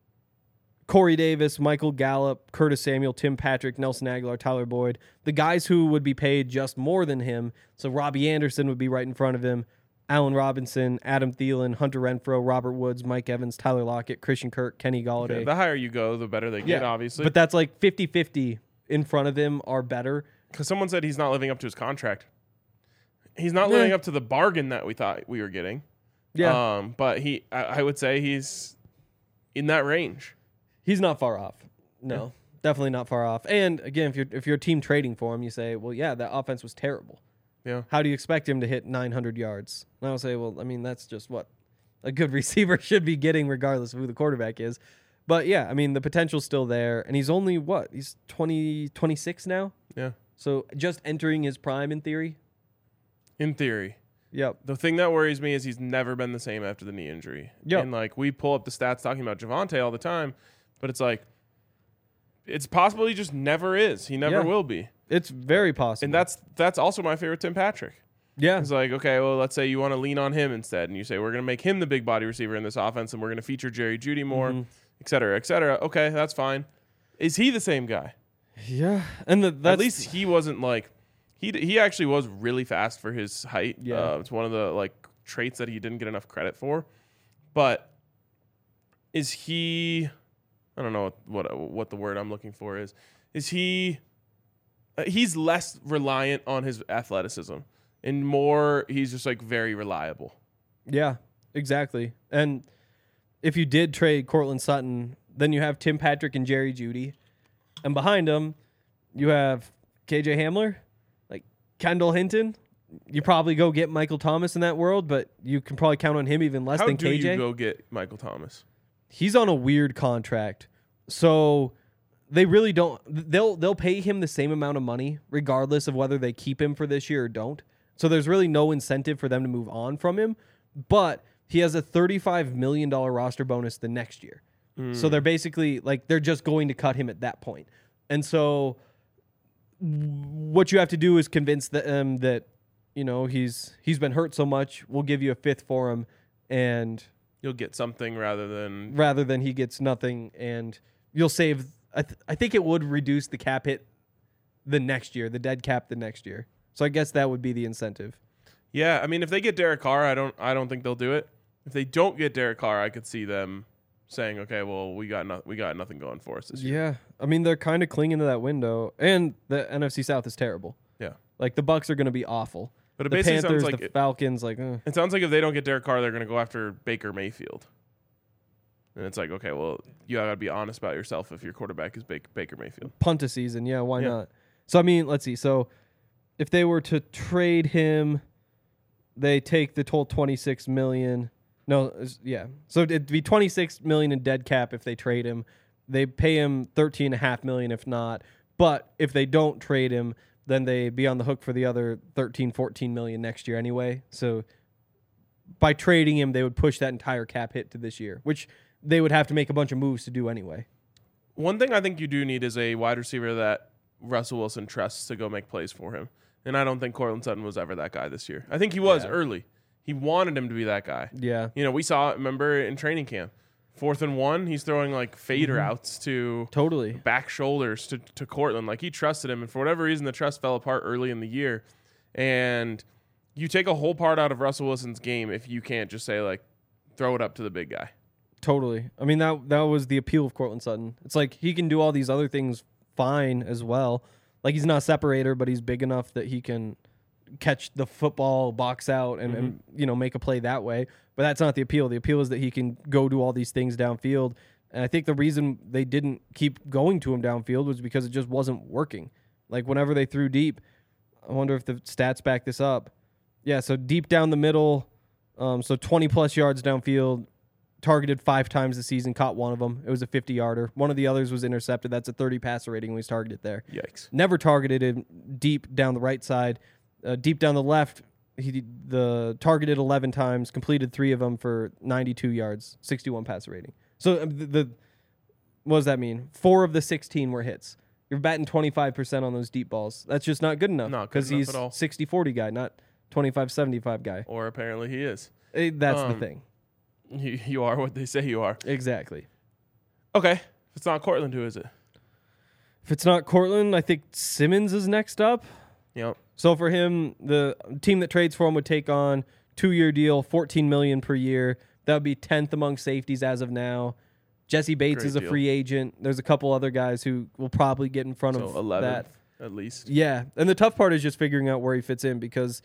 Corey Davis, Michael Gallup, Curtis Samuel, Tim Patrick, Nelson Aguilar, Tyler Boyd. The guys who would be paid just more than him. So Robbie Anderson would be right in front of him. Allen Robinson, Adam Thielen, Hunter Renfrow, Robert Woods, Mike Evans, Tyler Lockett, Christian Kirk, Kenny Galladay. Okay, the higher you go, the better they get, obviously. But that's like fifty-fifty in front of him are better. Because someone said he's not living up to his contract. He's not Yeah. living up to the bargain that we thought we were getting. Yeah. Um, but he, I, I would say he's in that range. He's not far off. No, definitely not far off. And again, if you're if you're a team trading for him, you say, well, yeah, that offense was terrible. Yeah. How do you expect him to hit nine hundred yards? And I'll say, well, I mean, that's just what a good receiver should be getting, regardless of who the quarterback is. But yeah, I mean, the potential's still there, and he's only what? He's twenty, twenty-six now. Yeah. So just entering his prime in theory. In theory. Yep. The thing that worries me is he's never been the same after the knee injury. Yep. And like we pull up the stats talking about Javonte all the time, but it's like it's possible he just never is. He never Yeah. will be. It's very possible. And that's that's also my favorite Tim Patrick. yeah. It's like, okay, well, let's say you want to lean on him instead, and you say we're going to make him the big body receiver in this offense, and we're going to feature Jerry Jeudy more, Mhm. et cetera, et cetera. Okay, that's fine. Is he the same guy? Yeah. And the, that's At least he wasn't like he he actually was really fast for his height. Yeah. Uh, it's one of the like traits that he didn't get enough credit for. But is he? I don't know what what, what the word I'm looking for is. Is he? Uh, he's less reliant on his athleticism, and more he's just like very reliable. Yeah, exactly. And if you did trade Cortland Sutton, then you have Tim Patrick and Jerry Jeudy. And behind them, you have K J Hamler, like Kendall Hinton. You probably go get Michael Thomas in that world, but you can probably count on him even less How than do K J. you go get Michael Thomas? He's on a weird contract. So they really don't they'll they'll pay him the same amount of money regardless of whether they keep him for this year or don't. So there's really no incentive for them to move on from him, but he has a thirty-five million dollars roster bonus the next year. So they're basically like they're just going to cut him at that point. And so what you have to do is convince them that you know he's he's been hurt so much, we'll give you a fifth for him, and You'll get something rather than rather than he gets nothing, and you'll save. I, th- I think it would reduce the cap hit the next year, the dead cap the next year. So I guess that would be the incentive. Yeah, I mean, if they get Derek Carr, I don't, I don't think they'll do it. If they don't get Derek Carr, I could see them saying, "Okay, well, we got no, we got nothing going for us this year." Yeah, I mean they're kind of clinging to that window, and the N F C South is terrible. Yeah, Like the Bucks are going to be awful. but it The basically Panthers, sounds like the it, Falcons, like eh. it sounds like if they don't get Derek Carr, they're going to go after Baker Mayfield. And it's like, okay, well, you got to be honest about yourself if your quarterback is Baker, Baker Mayfield. punt a season. Yeah, why Yeah. not? So I mean, let's see. So if they were to trade him, they take the total twenty-six million. No, it's- yeah. So it'd be twenty-six million in dead cap if they trade him. They pay him thirteen and a half million if not. But if they don't trade him, then they be on the hook for the other thirteen, fourteen million next year anyway. So by trading him, they would push that entire cap hit to this year, which they would have to make a bunch of moves to do anyway. One thing I think you do need is a wide receiver that Russell Wilson trusts to go make plays for him. And I don't think Cortland Sutton was ever that guy this year. I think he was Yeah. early. He wanted him to be that guy. Yeah. You know, we saw it, remember, in training camp. Fourth and one, he's throwing like fader Mm-hmm. outs to Totally. back shoulders to, to Cortland. Like, he trusted him. And for whatever reason, the trust fell apart early in the year. And you take a whole part out of Russell Wilson's game if you can't just say, like, throw it up to the big guy. Totally. I mean, that that was the appeal of Cortland Sutton. It's like he can do all these other things fine as well. Like, he's not a separator, but he's big enough that he can catch the football, box out, and, Mm-hmm. and you know, make a play that way. But that's not the appeal. The appeal is that he can go do all these things downfield. And I think the reason they didn't keep going to him downfield was because it just wasn't working. Like, whenever they threw deep, I wonder if the stats back this up. Yeah, so deep down the middle, um, so twenty-plus yards downfield, targeted five times this season, caught one of them. It was a fifty-yarder. One of the others was intercepted. That's a thirty passer rating when he's targeted there. Yikes. Never targeted him deep down the right side. Uh, deep down the left, he the targeted eleven times, completed three of them for ninety-two yards, sixty-one passer rating. So um, the, the what does that mean? Four of the sixteen were hits. You're batting twenty-five percent on those deep balls. That's just not good enough. Not good because enough he's at all. sixty forty guy, not twenty-five seventy-five guy. Or apparently he is. Eh, that's Um, the thing. You, you are what they say you are. Exactly. Okay. If it's not Cortland, who is it? If it's not Cortland, I think Simmons is next up. Yep. So for him, the team that trades for him would take on two-year deal, fourteen million dollars per year. That would be tenth among safeties as of now. Jesse Bates Great is a deal. free agent. There's a couple other guys who will probably get in front So of eleventh that. at least. Yeah, and the tough part is just figuring out where he fits in because,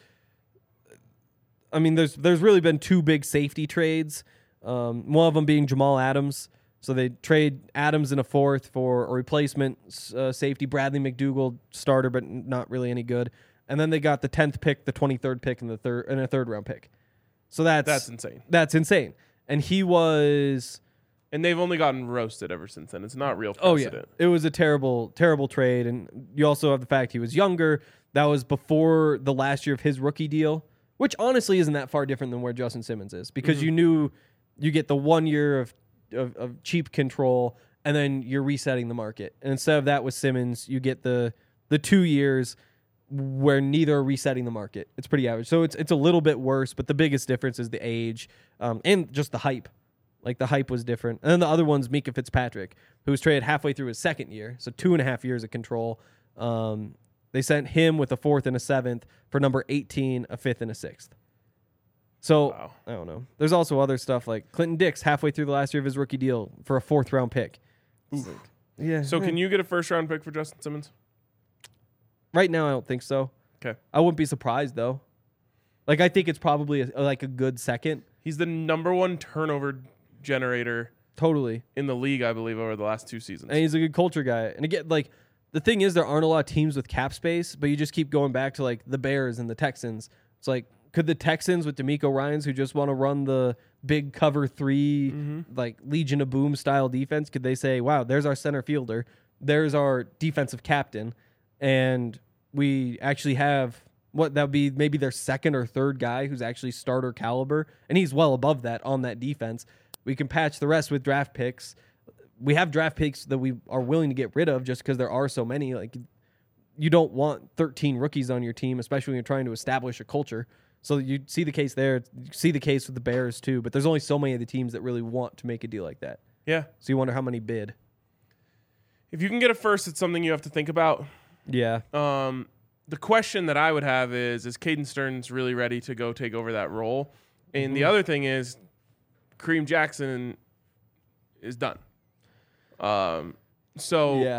I mean, there's there's really been two big safety trades. Um, one of them being Jamal Adams. So they trade Adams in a fourth for a replacement uh, safety, Bradley McDougald, starter, but not really any good. And then they got the tenth pick, the twenty-third pick, and the third and a third round pick. So that's That's insane. That's insane. And he was. And they've only gotten roasted ever since then. It's not real Oh yeah, precedent. it was a terrible, terrible trade, and you also have the fact he was younger. That was before the last year of his rookie deal, which honestly isn't that far different than where Justin Simmons is, because you knew you get the one year of, of of cheap control, and then you're resetting the market. And instead of that with Simmons, you get the the two years where neither are resetting the market. It's pretty average. So it's it's a little bit worse, but the biggest difference is the age um, and just the hype. Like, the hype was different. And then the other one's Mika Fitzpatrick, who was traded halfway through his second year, so two and a half years of control. Um, they sent him with a fourth and a seventh for number eighteen, a fifth, and a sixth. So, Wow. I don't know. There's also other stuff like Clinton Dix halfway through the last year of his rookie deal for a fourth round pick. It's like, yeah. So can you get a first round pick for Justin Simmons? Right now, I don't think so. Okay. I wouldn't be surprised, though. Like, I think it's probably a, like a good second. He's the number one turnover generator Totally. in the league, I believe, over the last two seasons. And he's a good culture guy. And again, like, the thing is, there aren't a lot of teams with cap space, but you just keep going back to, like, the Bears and the Texans. It's like, could the Texans with D'Amico Ryans, who just want to run the big cover three, like, Legion of Boom style defense, could they say, wow, there's our center fielder, there's our defensive captain, and we actually have what that would be maybe their second or third guy who's actually starter caliber, and he's well above that on that defense. We can patch the rest with draft picks. We have draft picks that we are willing to get rid of just because there are so many. Like, you don't want thirteen rookies on your team, especially when you're trying to establish a culture. So you see the case there. You see the case with the Bears too, but there's only so many of the teams that really want to make a deal like that. Yeah. So you wonder how many bid. If you can get a first, it's something you have to think about. Yeah. Um, the question that I would have is, is Caden Stearns really ready to go take over that role? And the other thing is, Kareem Jackson is done. Um, so Yeah.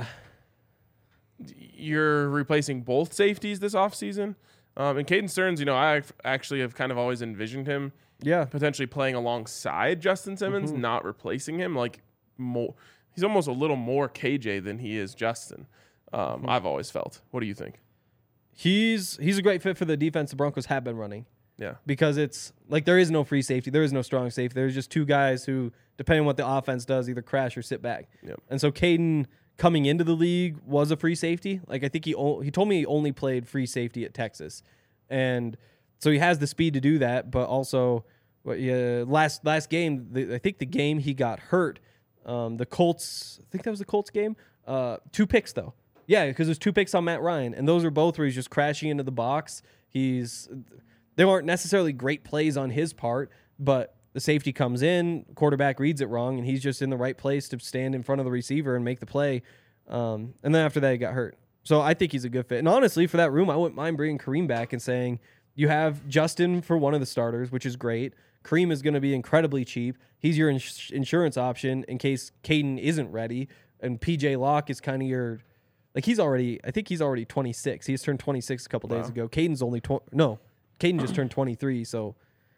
you're replacing both safeties this offseason. Um, and Caden Stearns, you know, I actually have kind of always envisioned him Yeah. potentially playing alongside Justin Simmons, not replacing him. Like, more, he's almost a little more K J than he is Justin. Um, I've always felt. What do you think? He's he's a great fit for the defense the Broncos have been running. Yeah. Because it's like there is no free safety, there is no strong safety. There's just two guys who, depending on what the offense does, either crash or sit back. Yep. And so Caden coming into the league was a free safety. Like, I think he o- he told me he only played free safety at Texas, and so he has the speed to do that. But also, what yeah, last last game, the, I think the game he got hurt, Um, the Colts, I think that was the Colts game. Uh, two picks though. Yeah, because there's two picks on Matt Ryan, and those are both where he's just crashing into the box. He's they aren't necessarily great plays on his part, but the safety comes in, quarterback reads it wrong, and he's just in the right place to stand in front of the receiver and make the play. Um, and then after that, he got hurt. So I think he's a good fit. And honestly, for that room, I wouldn't mind bringing Kareem back and saying you have Justin for one of the starters, which is great. Kareem is going to be incredibly cheap. He's your ins- insurance option in case Caden isn't ready. And P J Locke is kind of your, like he's already, I think he's already twenty-six. He just turned twenty-six a couple wow. days ago. Caden's only, twenty. no, Caden just turned twenty-three. So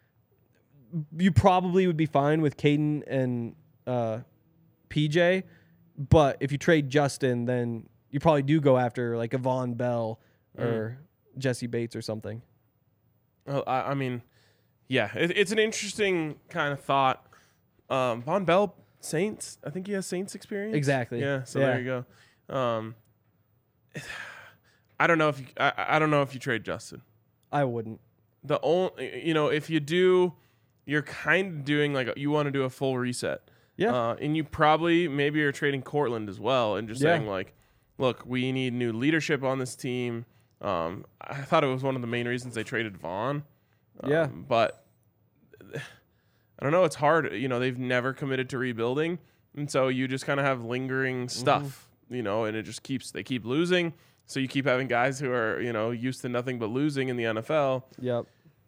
you probably would be fine with Caden and uh, P J. But if you trade Justin, then you probably do go after like a Von Bell or mm. Jesse Bates or something. Well, I, I mean, yeah, it, it's an interesting kind of thought. Um, Von Bell, Saints, I think he has Saints experience. Exactly. Yeah, so yeah. there you go. Um, I don't know if you, I, I don't know if you trade Justin. I wouldn't. The only, you know, if you do, you're kind of doing like a, you want to do a full reset. Yeah. Uh, and you probably maybe you're trading Cortland as well, and just yeah. saying like, look, we need new leadership on this team. Um, I thought it was one of the main reasons they traded Vaughn. Um, yeah. But I don't know. It's hard. You know, they've never committed to rebuilding. And so you just kind of have lingering stuff, mm-hmm. you know, and it just keeps, they keep losing. So you keep having guys who are, you know, used to nothing but losing in the N F L. Yep.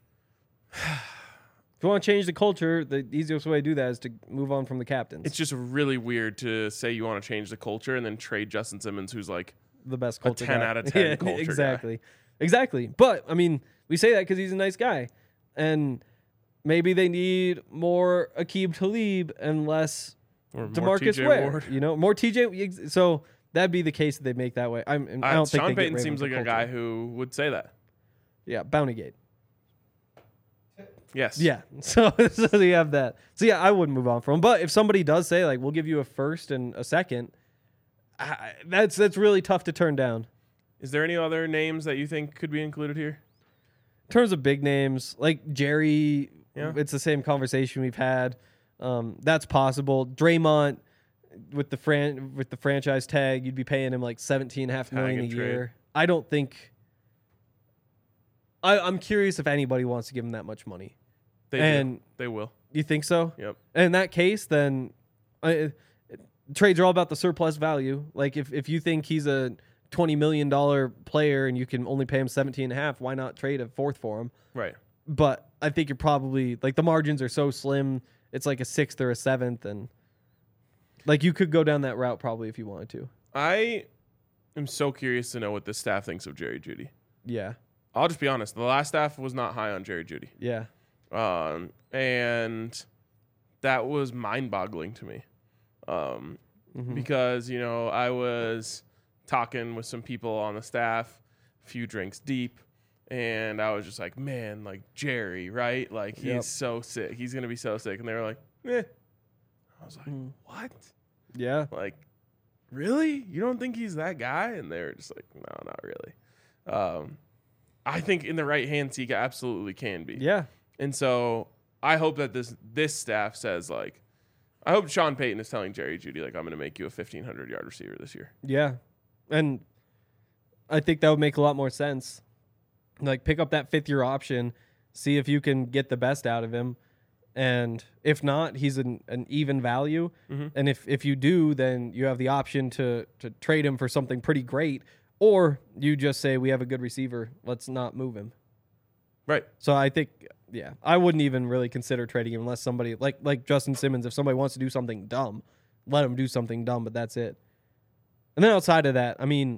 If you want to change the culture, the easiest way to do that is to move on from the captains. It's just really weird to say you want to change the culture and then trade Justin Simmons, who's like the best culture a ten guy. out of ten yeah, culture exactly. guy. Exactly. But, I mean, we say that because he's a nice guy. And maybe they need more Aqib Talib and less or DeMarcus Ware. You know, more T J. So that'd be the case that they make that way. I'm, I don't uh, think Sean they Payton get seems like culture. a guy who would say that. Yeah, Bountygate. Yes. Yeah. So, so you have that. So yeah, I wouldn't move on from him. But if somebody does say like, we'll give you a first and a second, I, that's that's really tough to turn down. Is there any other names that you think could be included here? In terms of big names, like Jerry, yeah. it's the same conversation we've had. Um, that's possible. Draymond with the fran- with the franchise tag, you'd be paying him like seventeen and a half million a year. I don't think. I, I'm curious if anybody wants to give him that much money. They and do. They will. You think so? Yep. And in that case, then uh, trades are all about the surplus value. Like if, if you think he's a twenty million dollars player and you can only pay him seventeen and a half, why not trade a fourth for him? Right. But I think you're probably like the margins are so slim. It's like a sixth or a seventh. And like you could go down that route probably if you wanted to. I am so curious to know what this staff thinks of Jerry Jeudy. Yeah. I'll just be honest. The last staff was not high on Jerry Jeudy. Yeah. Um, and that was mind-boggling to me. Um, mm-hmm. Because, you know, I was talking with some people on the staff, a few drinks deep, and I was just like, man, like Jerry, right? Like, he's yep. so sick. He's going to be so sick. And they were like, eh. I was like, mm. what? Yeah. Like, really? You don't think he's that guy? And they were just like, no, not really. Um, I think in the right hands, he absolutely can be. Yeah. And so I hope that this this staff says, like, I hope Sean Payton is telling Jerry Jeudy, like, I'm going to make you a fifteen hundred yard receiver this year. Yeah. And I think that would make a lot more sense. Like, pick up that fifth year option, see if you can get the best out of him. And if not, he's an, an even value. Mm-hmm. And if, if you do, then you have the option to, to trade him for something pretty great. Or you just say, we have a good receiver, let's not move him. Right. So I think, yeah, I wouldn't even really consider trading him unless somebody, like like Justin Simmons, if somebody wants to do something dumb, let him do something dumb, but that's it. And then outside of that, I mean,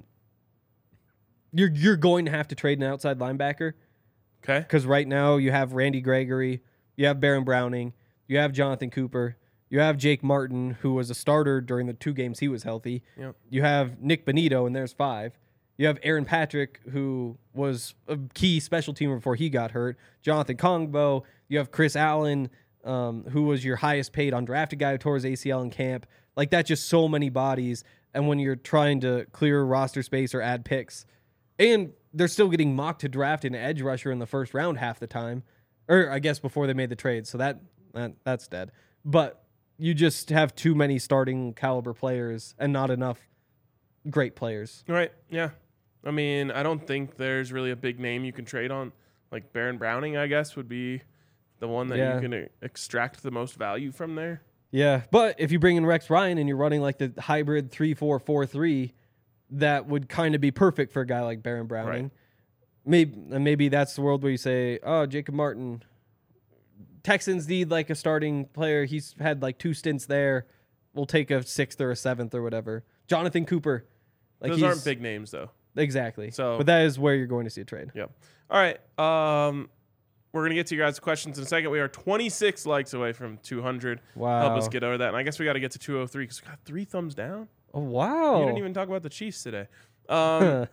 you're you're going to have to trade an outside linebacker. Okay. Because right now you have Randy Gregory, you have Baron Browning, you have Jonathan Cooper, you have Jake Martin, who was a starter during the two games he was healthy. Yep. You have Nick Benito, and there's five. You have Aaron Patrick, who was a key special teamer before he got hurt. Jonathan Kongbo. You have Chris Allen, um, who was your highest paid undrafted guy who tore his A C L in camp. Like, that's just so many bodies. And when you're trying to clear roster space or add picks, and they're still getting mocked to draft an edge rusher in the first round half the time, or I guess before they made the trade. So that, that that's dead. But you just have too many starting caliber players and not enough great players. Right. Yeah. I mean, I don't think there's really a big name you can trade on. Like Baron Browning, I guess, would be the one that Yeah. you can uh, extract the most value from there. Yeah, but if you bring in Rex Ryan and you're running like the hybrid three four four three, that would kind of be perfect for a guy like Baron Browning. Right. Maybe and maybe that's the world where you say, "Oh, Jacob Martin, Texans need like a starting player. He's had like two stints there. We'll take a sixth or a seventh or whatever." Jonathan Cooper, like Those he's- aren't big names, though. exactly. So- but that is where you're going to see a trade. Yep. All right. Um, we're going to get to your guys' questions in a second. We are twenty-six likes away from two hundred. Wow. Help us get over that. And I guess we got to get to two oh three because we got three thumbs down. Oh wow! You didn't even talk about the Chiefs today. Um,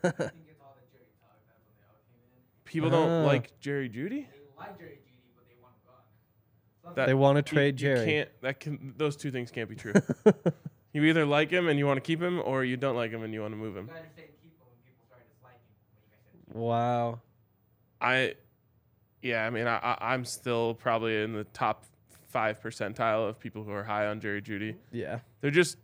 people don't Uh. like Jerry Jeudy. That, They wanna you- trade you Jerry. Can't, that can, those two things can't be true. You either like him and you want to keep him, or you don't like him and you want to move him. Wow. I, yeah, I mean, I, I, I'm still probably in the top five percentile of people who are high on Jerry Jeudy. Yeah. They're just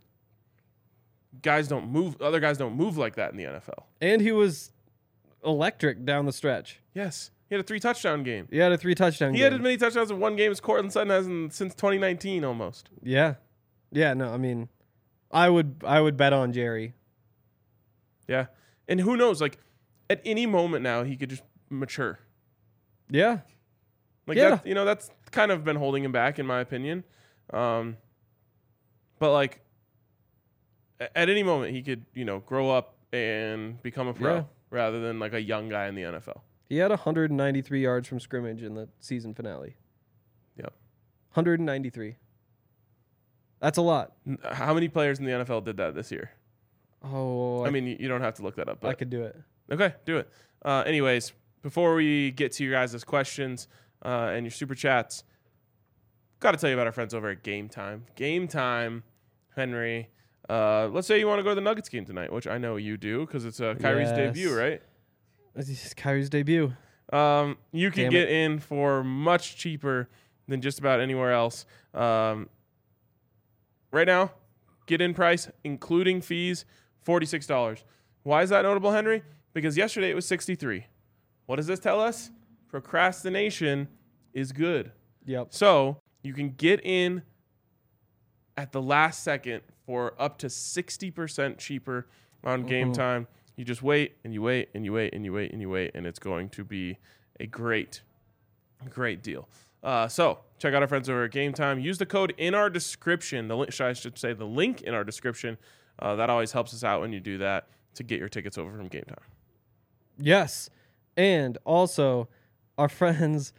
guys don't move. Other guys don't move like that in the N F L. And he was electric down the stretch. Yes, he had a three touchdown game. He had a three touchdown He game. had as many touchdowns in one game as Cortland Sutton has in, since twenty nineteen almost. Yeah. Yeah, no, I mean I would I would bet on Jerry. Yeah, and who knows? Like at any moment now, he could just mature. Yeah. Like Yeah. that, you know, that's kind of been holding him back, in my opinion. Um, but like, a- at any moment, he could, you know, grow up and become a pro Yeah. rather than like a young guy in the N F L. He had one hundred ninety-three yards from scrimmage in the season finale. Yep. one hundred ninety-three. That's a lot. N- How many players in the N F L did that this year? Oh, I mean, you, you don't have to look that up. But I could do it. Okay, do it. Uh, anyways, before we get to your guys' questions uh, and your super chats, got to tell you about our friends over at Game Time. Game Time, Henry. Uh, let's say you want to go to the Nuggets game tonight, which I know you do because it's uh, Kyrie's Yes. debut, right? This is Kyrie's debut. Um, you can Damn get in for much cheaper than just about anywhere else. Um, right now, get in price, including fees, forty-six dollars. Why is that notable, Henry? Because yesterday it was sixty-three dollars. What does this tell us? Procrastination is good. Yep. So you can get in at the last second for up to sixty percent cheaper on Game Time. You just wait and you wait and you wait and you wait and you wait, and it's going to be a great, great deal. Uh, so check out our friends over at Game Time. Use the code in our description. The link, I should say the link in our description. Uh, that always helps us out when you do that to get your tickets over from Game Time. Yes. And also our friends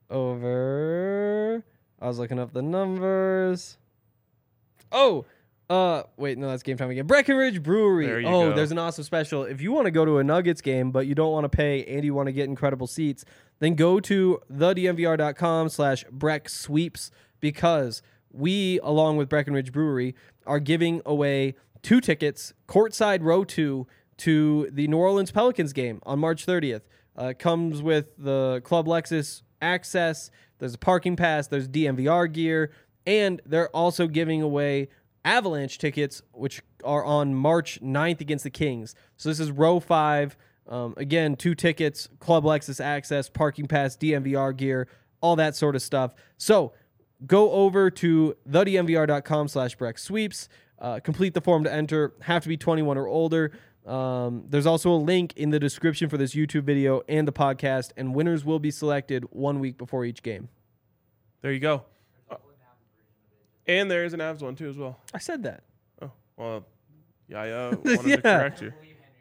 over I was looking up the numbers. Oh, uh wait, no, that's Game Time again. Breckenridge Brewery. There you oh, go. there's an awesome special. If you want to go to a Nuggets game but you don't want to pay and you want to get incredible seats, then go to thednvr.com slash Breck Sweeps because we, along with Breckenridge Brewery, are giving away two tickets, courtside row two, to the New Orleans Pelicans game on March thirtieth. Uh, it comes with the Club Lexus access. There's a parking pass. There's D N V R gear. And they're also giving away Avalanche tickets, which are on March ninth against the Kings. So this is row five. Um, again, two tickets, Club Lexus access, parking pass, D N V R gear, all that sort of stuff. So go over to thednvr.com slash Breck Sweeps. Uh, complete the form to enter. Have to be twenty-one or older. Um, there's also a link in the description for this YouTube video and the podcast, and winners will be selected one week before each game. There you go. Uh, and there is an Avs one too as well. I said that. Oh, well, Yaya wanted Yeah. to correct you.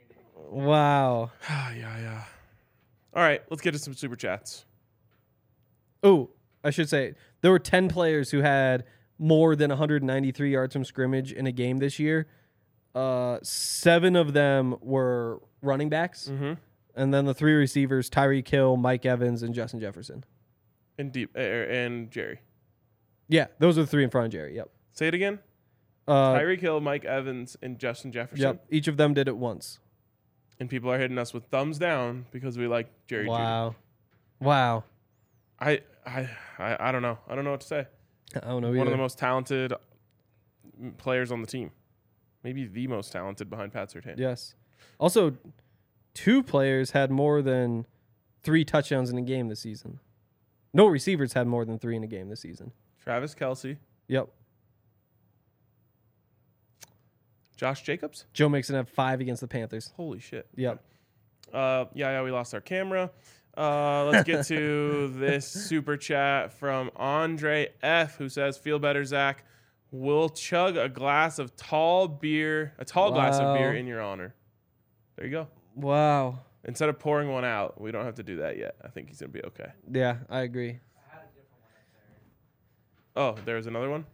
Wow. Ah, yeah, yeah. All right, let's get to some super chats. Oh, I should say there were ten players who had more than one hundred ninety-three yards from scrimmage in a game this year. Uh, seven of them were running backs, Mm-hmm. and then the three receivers: Tyreek Hill, Mike Evans, and Justin Jefferson. And deep uh, and Jerry. Yeah, those are the three in front of Jerry. Yep. Say it again. Uh, Tyreek Hill, Mike Evans, and Justin Jefferson. yep. Each of them did it once. And people are hitting us with thumbs down because we like Jerry. Wow. Wow. Jeudy. I, I, I, I don't know. I don't know what to say. I don't know One either. of the most talented mm, players on the team. Maybe the most talented behind Pat Surtain. Yes. Also, two players had more than three touchdowns in a game this season. No receivers had more than three in a game this season. Travis Kelce, Yep. Josh Jacobs. Joe Mixon had five against the Panthers. Holy shit. Yep. Uh, yeah, yeah, we lost our camera. Uh, let's get to this super chat from Andre F, who says, "Feel better, Zach. We'll chug a glass of tall beer, a tall glass of beer Wow. in your honor." There you go. Wow. Instead of pouring one out, we don't have to do that yet. I think he's gonna be okay. Yeah, I agree. Oh, there's another one.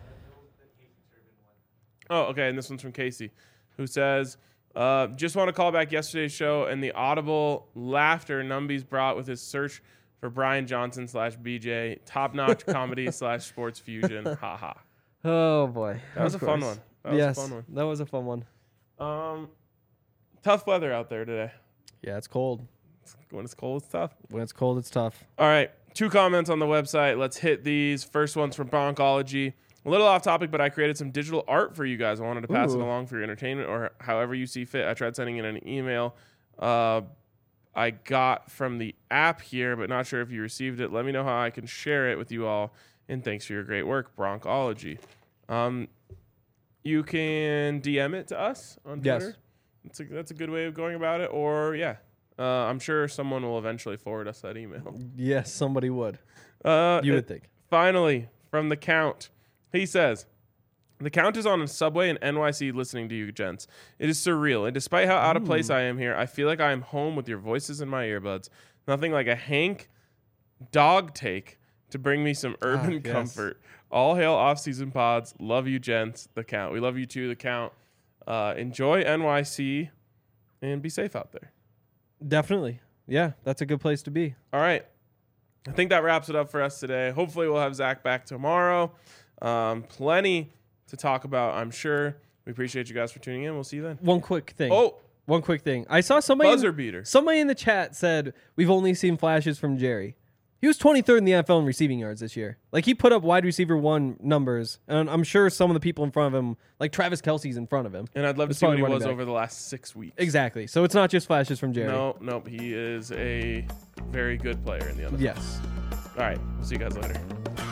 Oh, okay, and this one's from Casey, who says, uh, "Just want to call back yesterday's show and the audible laughter Numbies brought with his search for Brian Johnson slash B J, top-notch comedy slash sports fusion. Ha ha." Oh boy. That was Of a fun course. one. That was yes, a fun one. that was a fun one. Um, tough weather out there today. Yeah, it's cold. When it's cold, it's tough. When it's cold, it's tough. All right, two comments on the website. Let's hit these. First one's from Broncology. A little off topic, but I created some digital art for you guys. I wanted to pass it Ooh. along for your entertainment or however you see fit. I tried sending in an email uh, I got from the app here, but not sure if you received it. Let me know how I can share it with you all. And thanks for your great work, Broncology. Um, you can D M it to us on Yes. Twitter. That's a, that's a good way of going about it. Or, yeah, uh, I'm sure someone will eventually forward us that email. Yes, somebody would. Uh, You it- would think. Finally, from the Count, he says, "The Count is on a subway in N Y C listening to you, gents. It is surreal, and despite how out of place I am here, I feel like I am home with your voices in my earbuds. Nothing like a Hank dog take to bring me some urban yes. comfort. All hail off-season pods. Love you, gents. The Count. We love you too, the Count. Uh, enjoy N Y C, and be safe out there." Definitely. Yeah, that's a good place to be. All right. I think that wraps it up for us today. Hopefully we'll have Zach back tomorrow. Um, plenty to talk about, I'm sure. We appreciate you guys for tuning in. We'll see you then. One quick thing. Oh, One quick thing. I saw somebody buzzer in, beater. somebody in the chat said we've only seen flashes from Jerry. He was twenty-third in the N F L in receiving yards this year. Like, he put up wide receiver one numbers, and I'm sure some of the people in front of him, like Travis Kelce's in front of him. And I'd love to It's see what probably he running was back. over the last six weeks. Exactly. So it's not just flashes from Jerry. No, nope. He is a very good player in the N F L. Yes. All right. We'll see you guys later.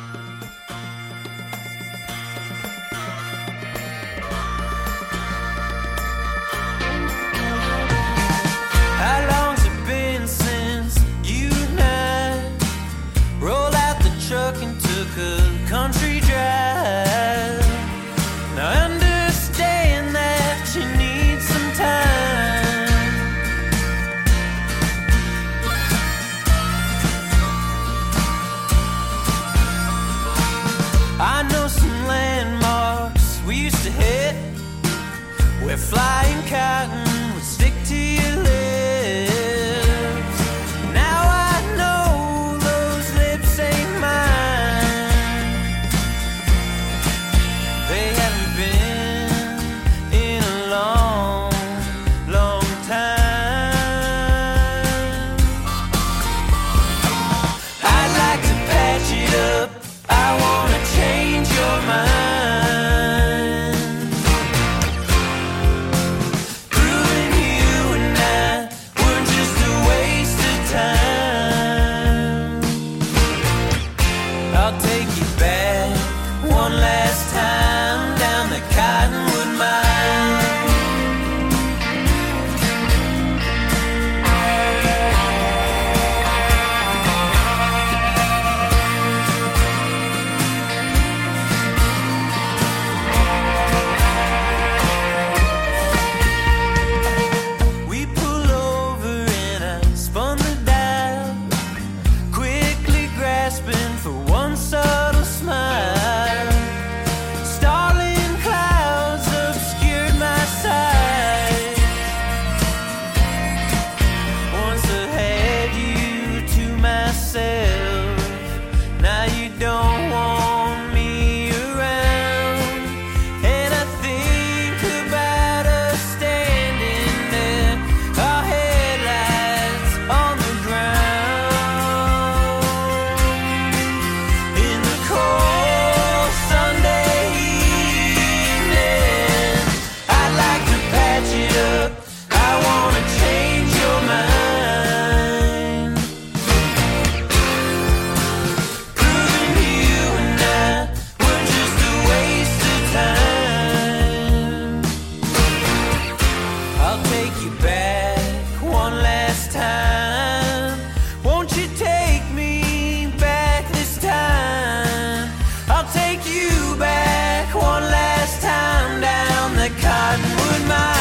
How long's it been since you and I rolled out the truck and took a country drive? Now I understand that you need some time. I know some landmarks we used to hit where flying cotton would stick to your lips. Now I know those lips ain't mine. They haven't been in a long, long time. I'd like to patch it up. I wanna change your mind. Through my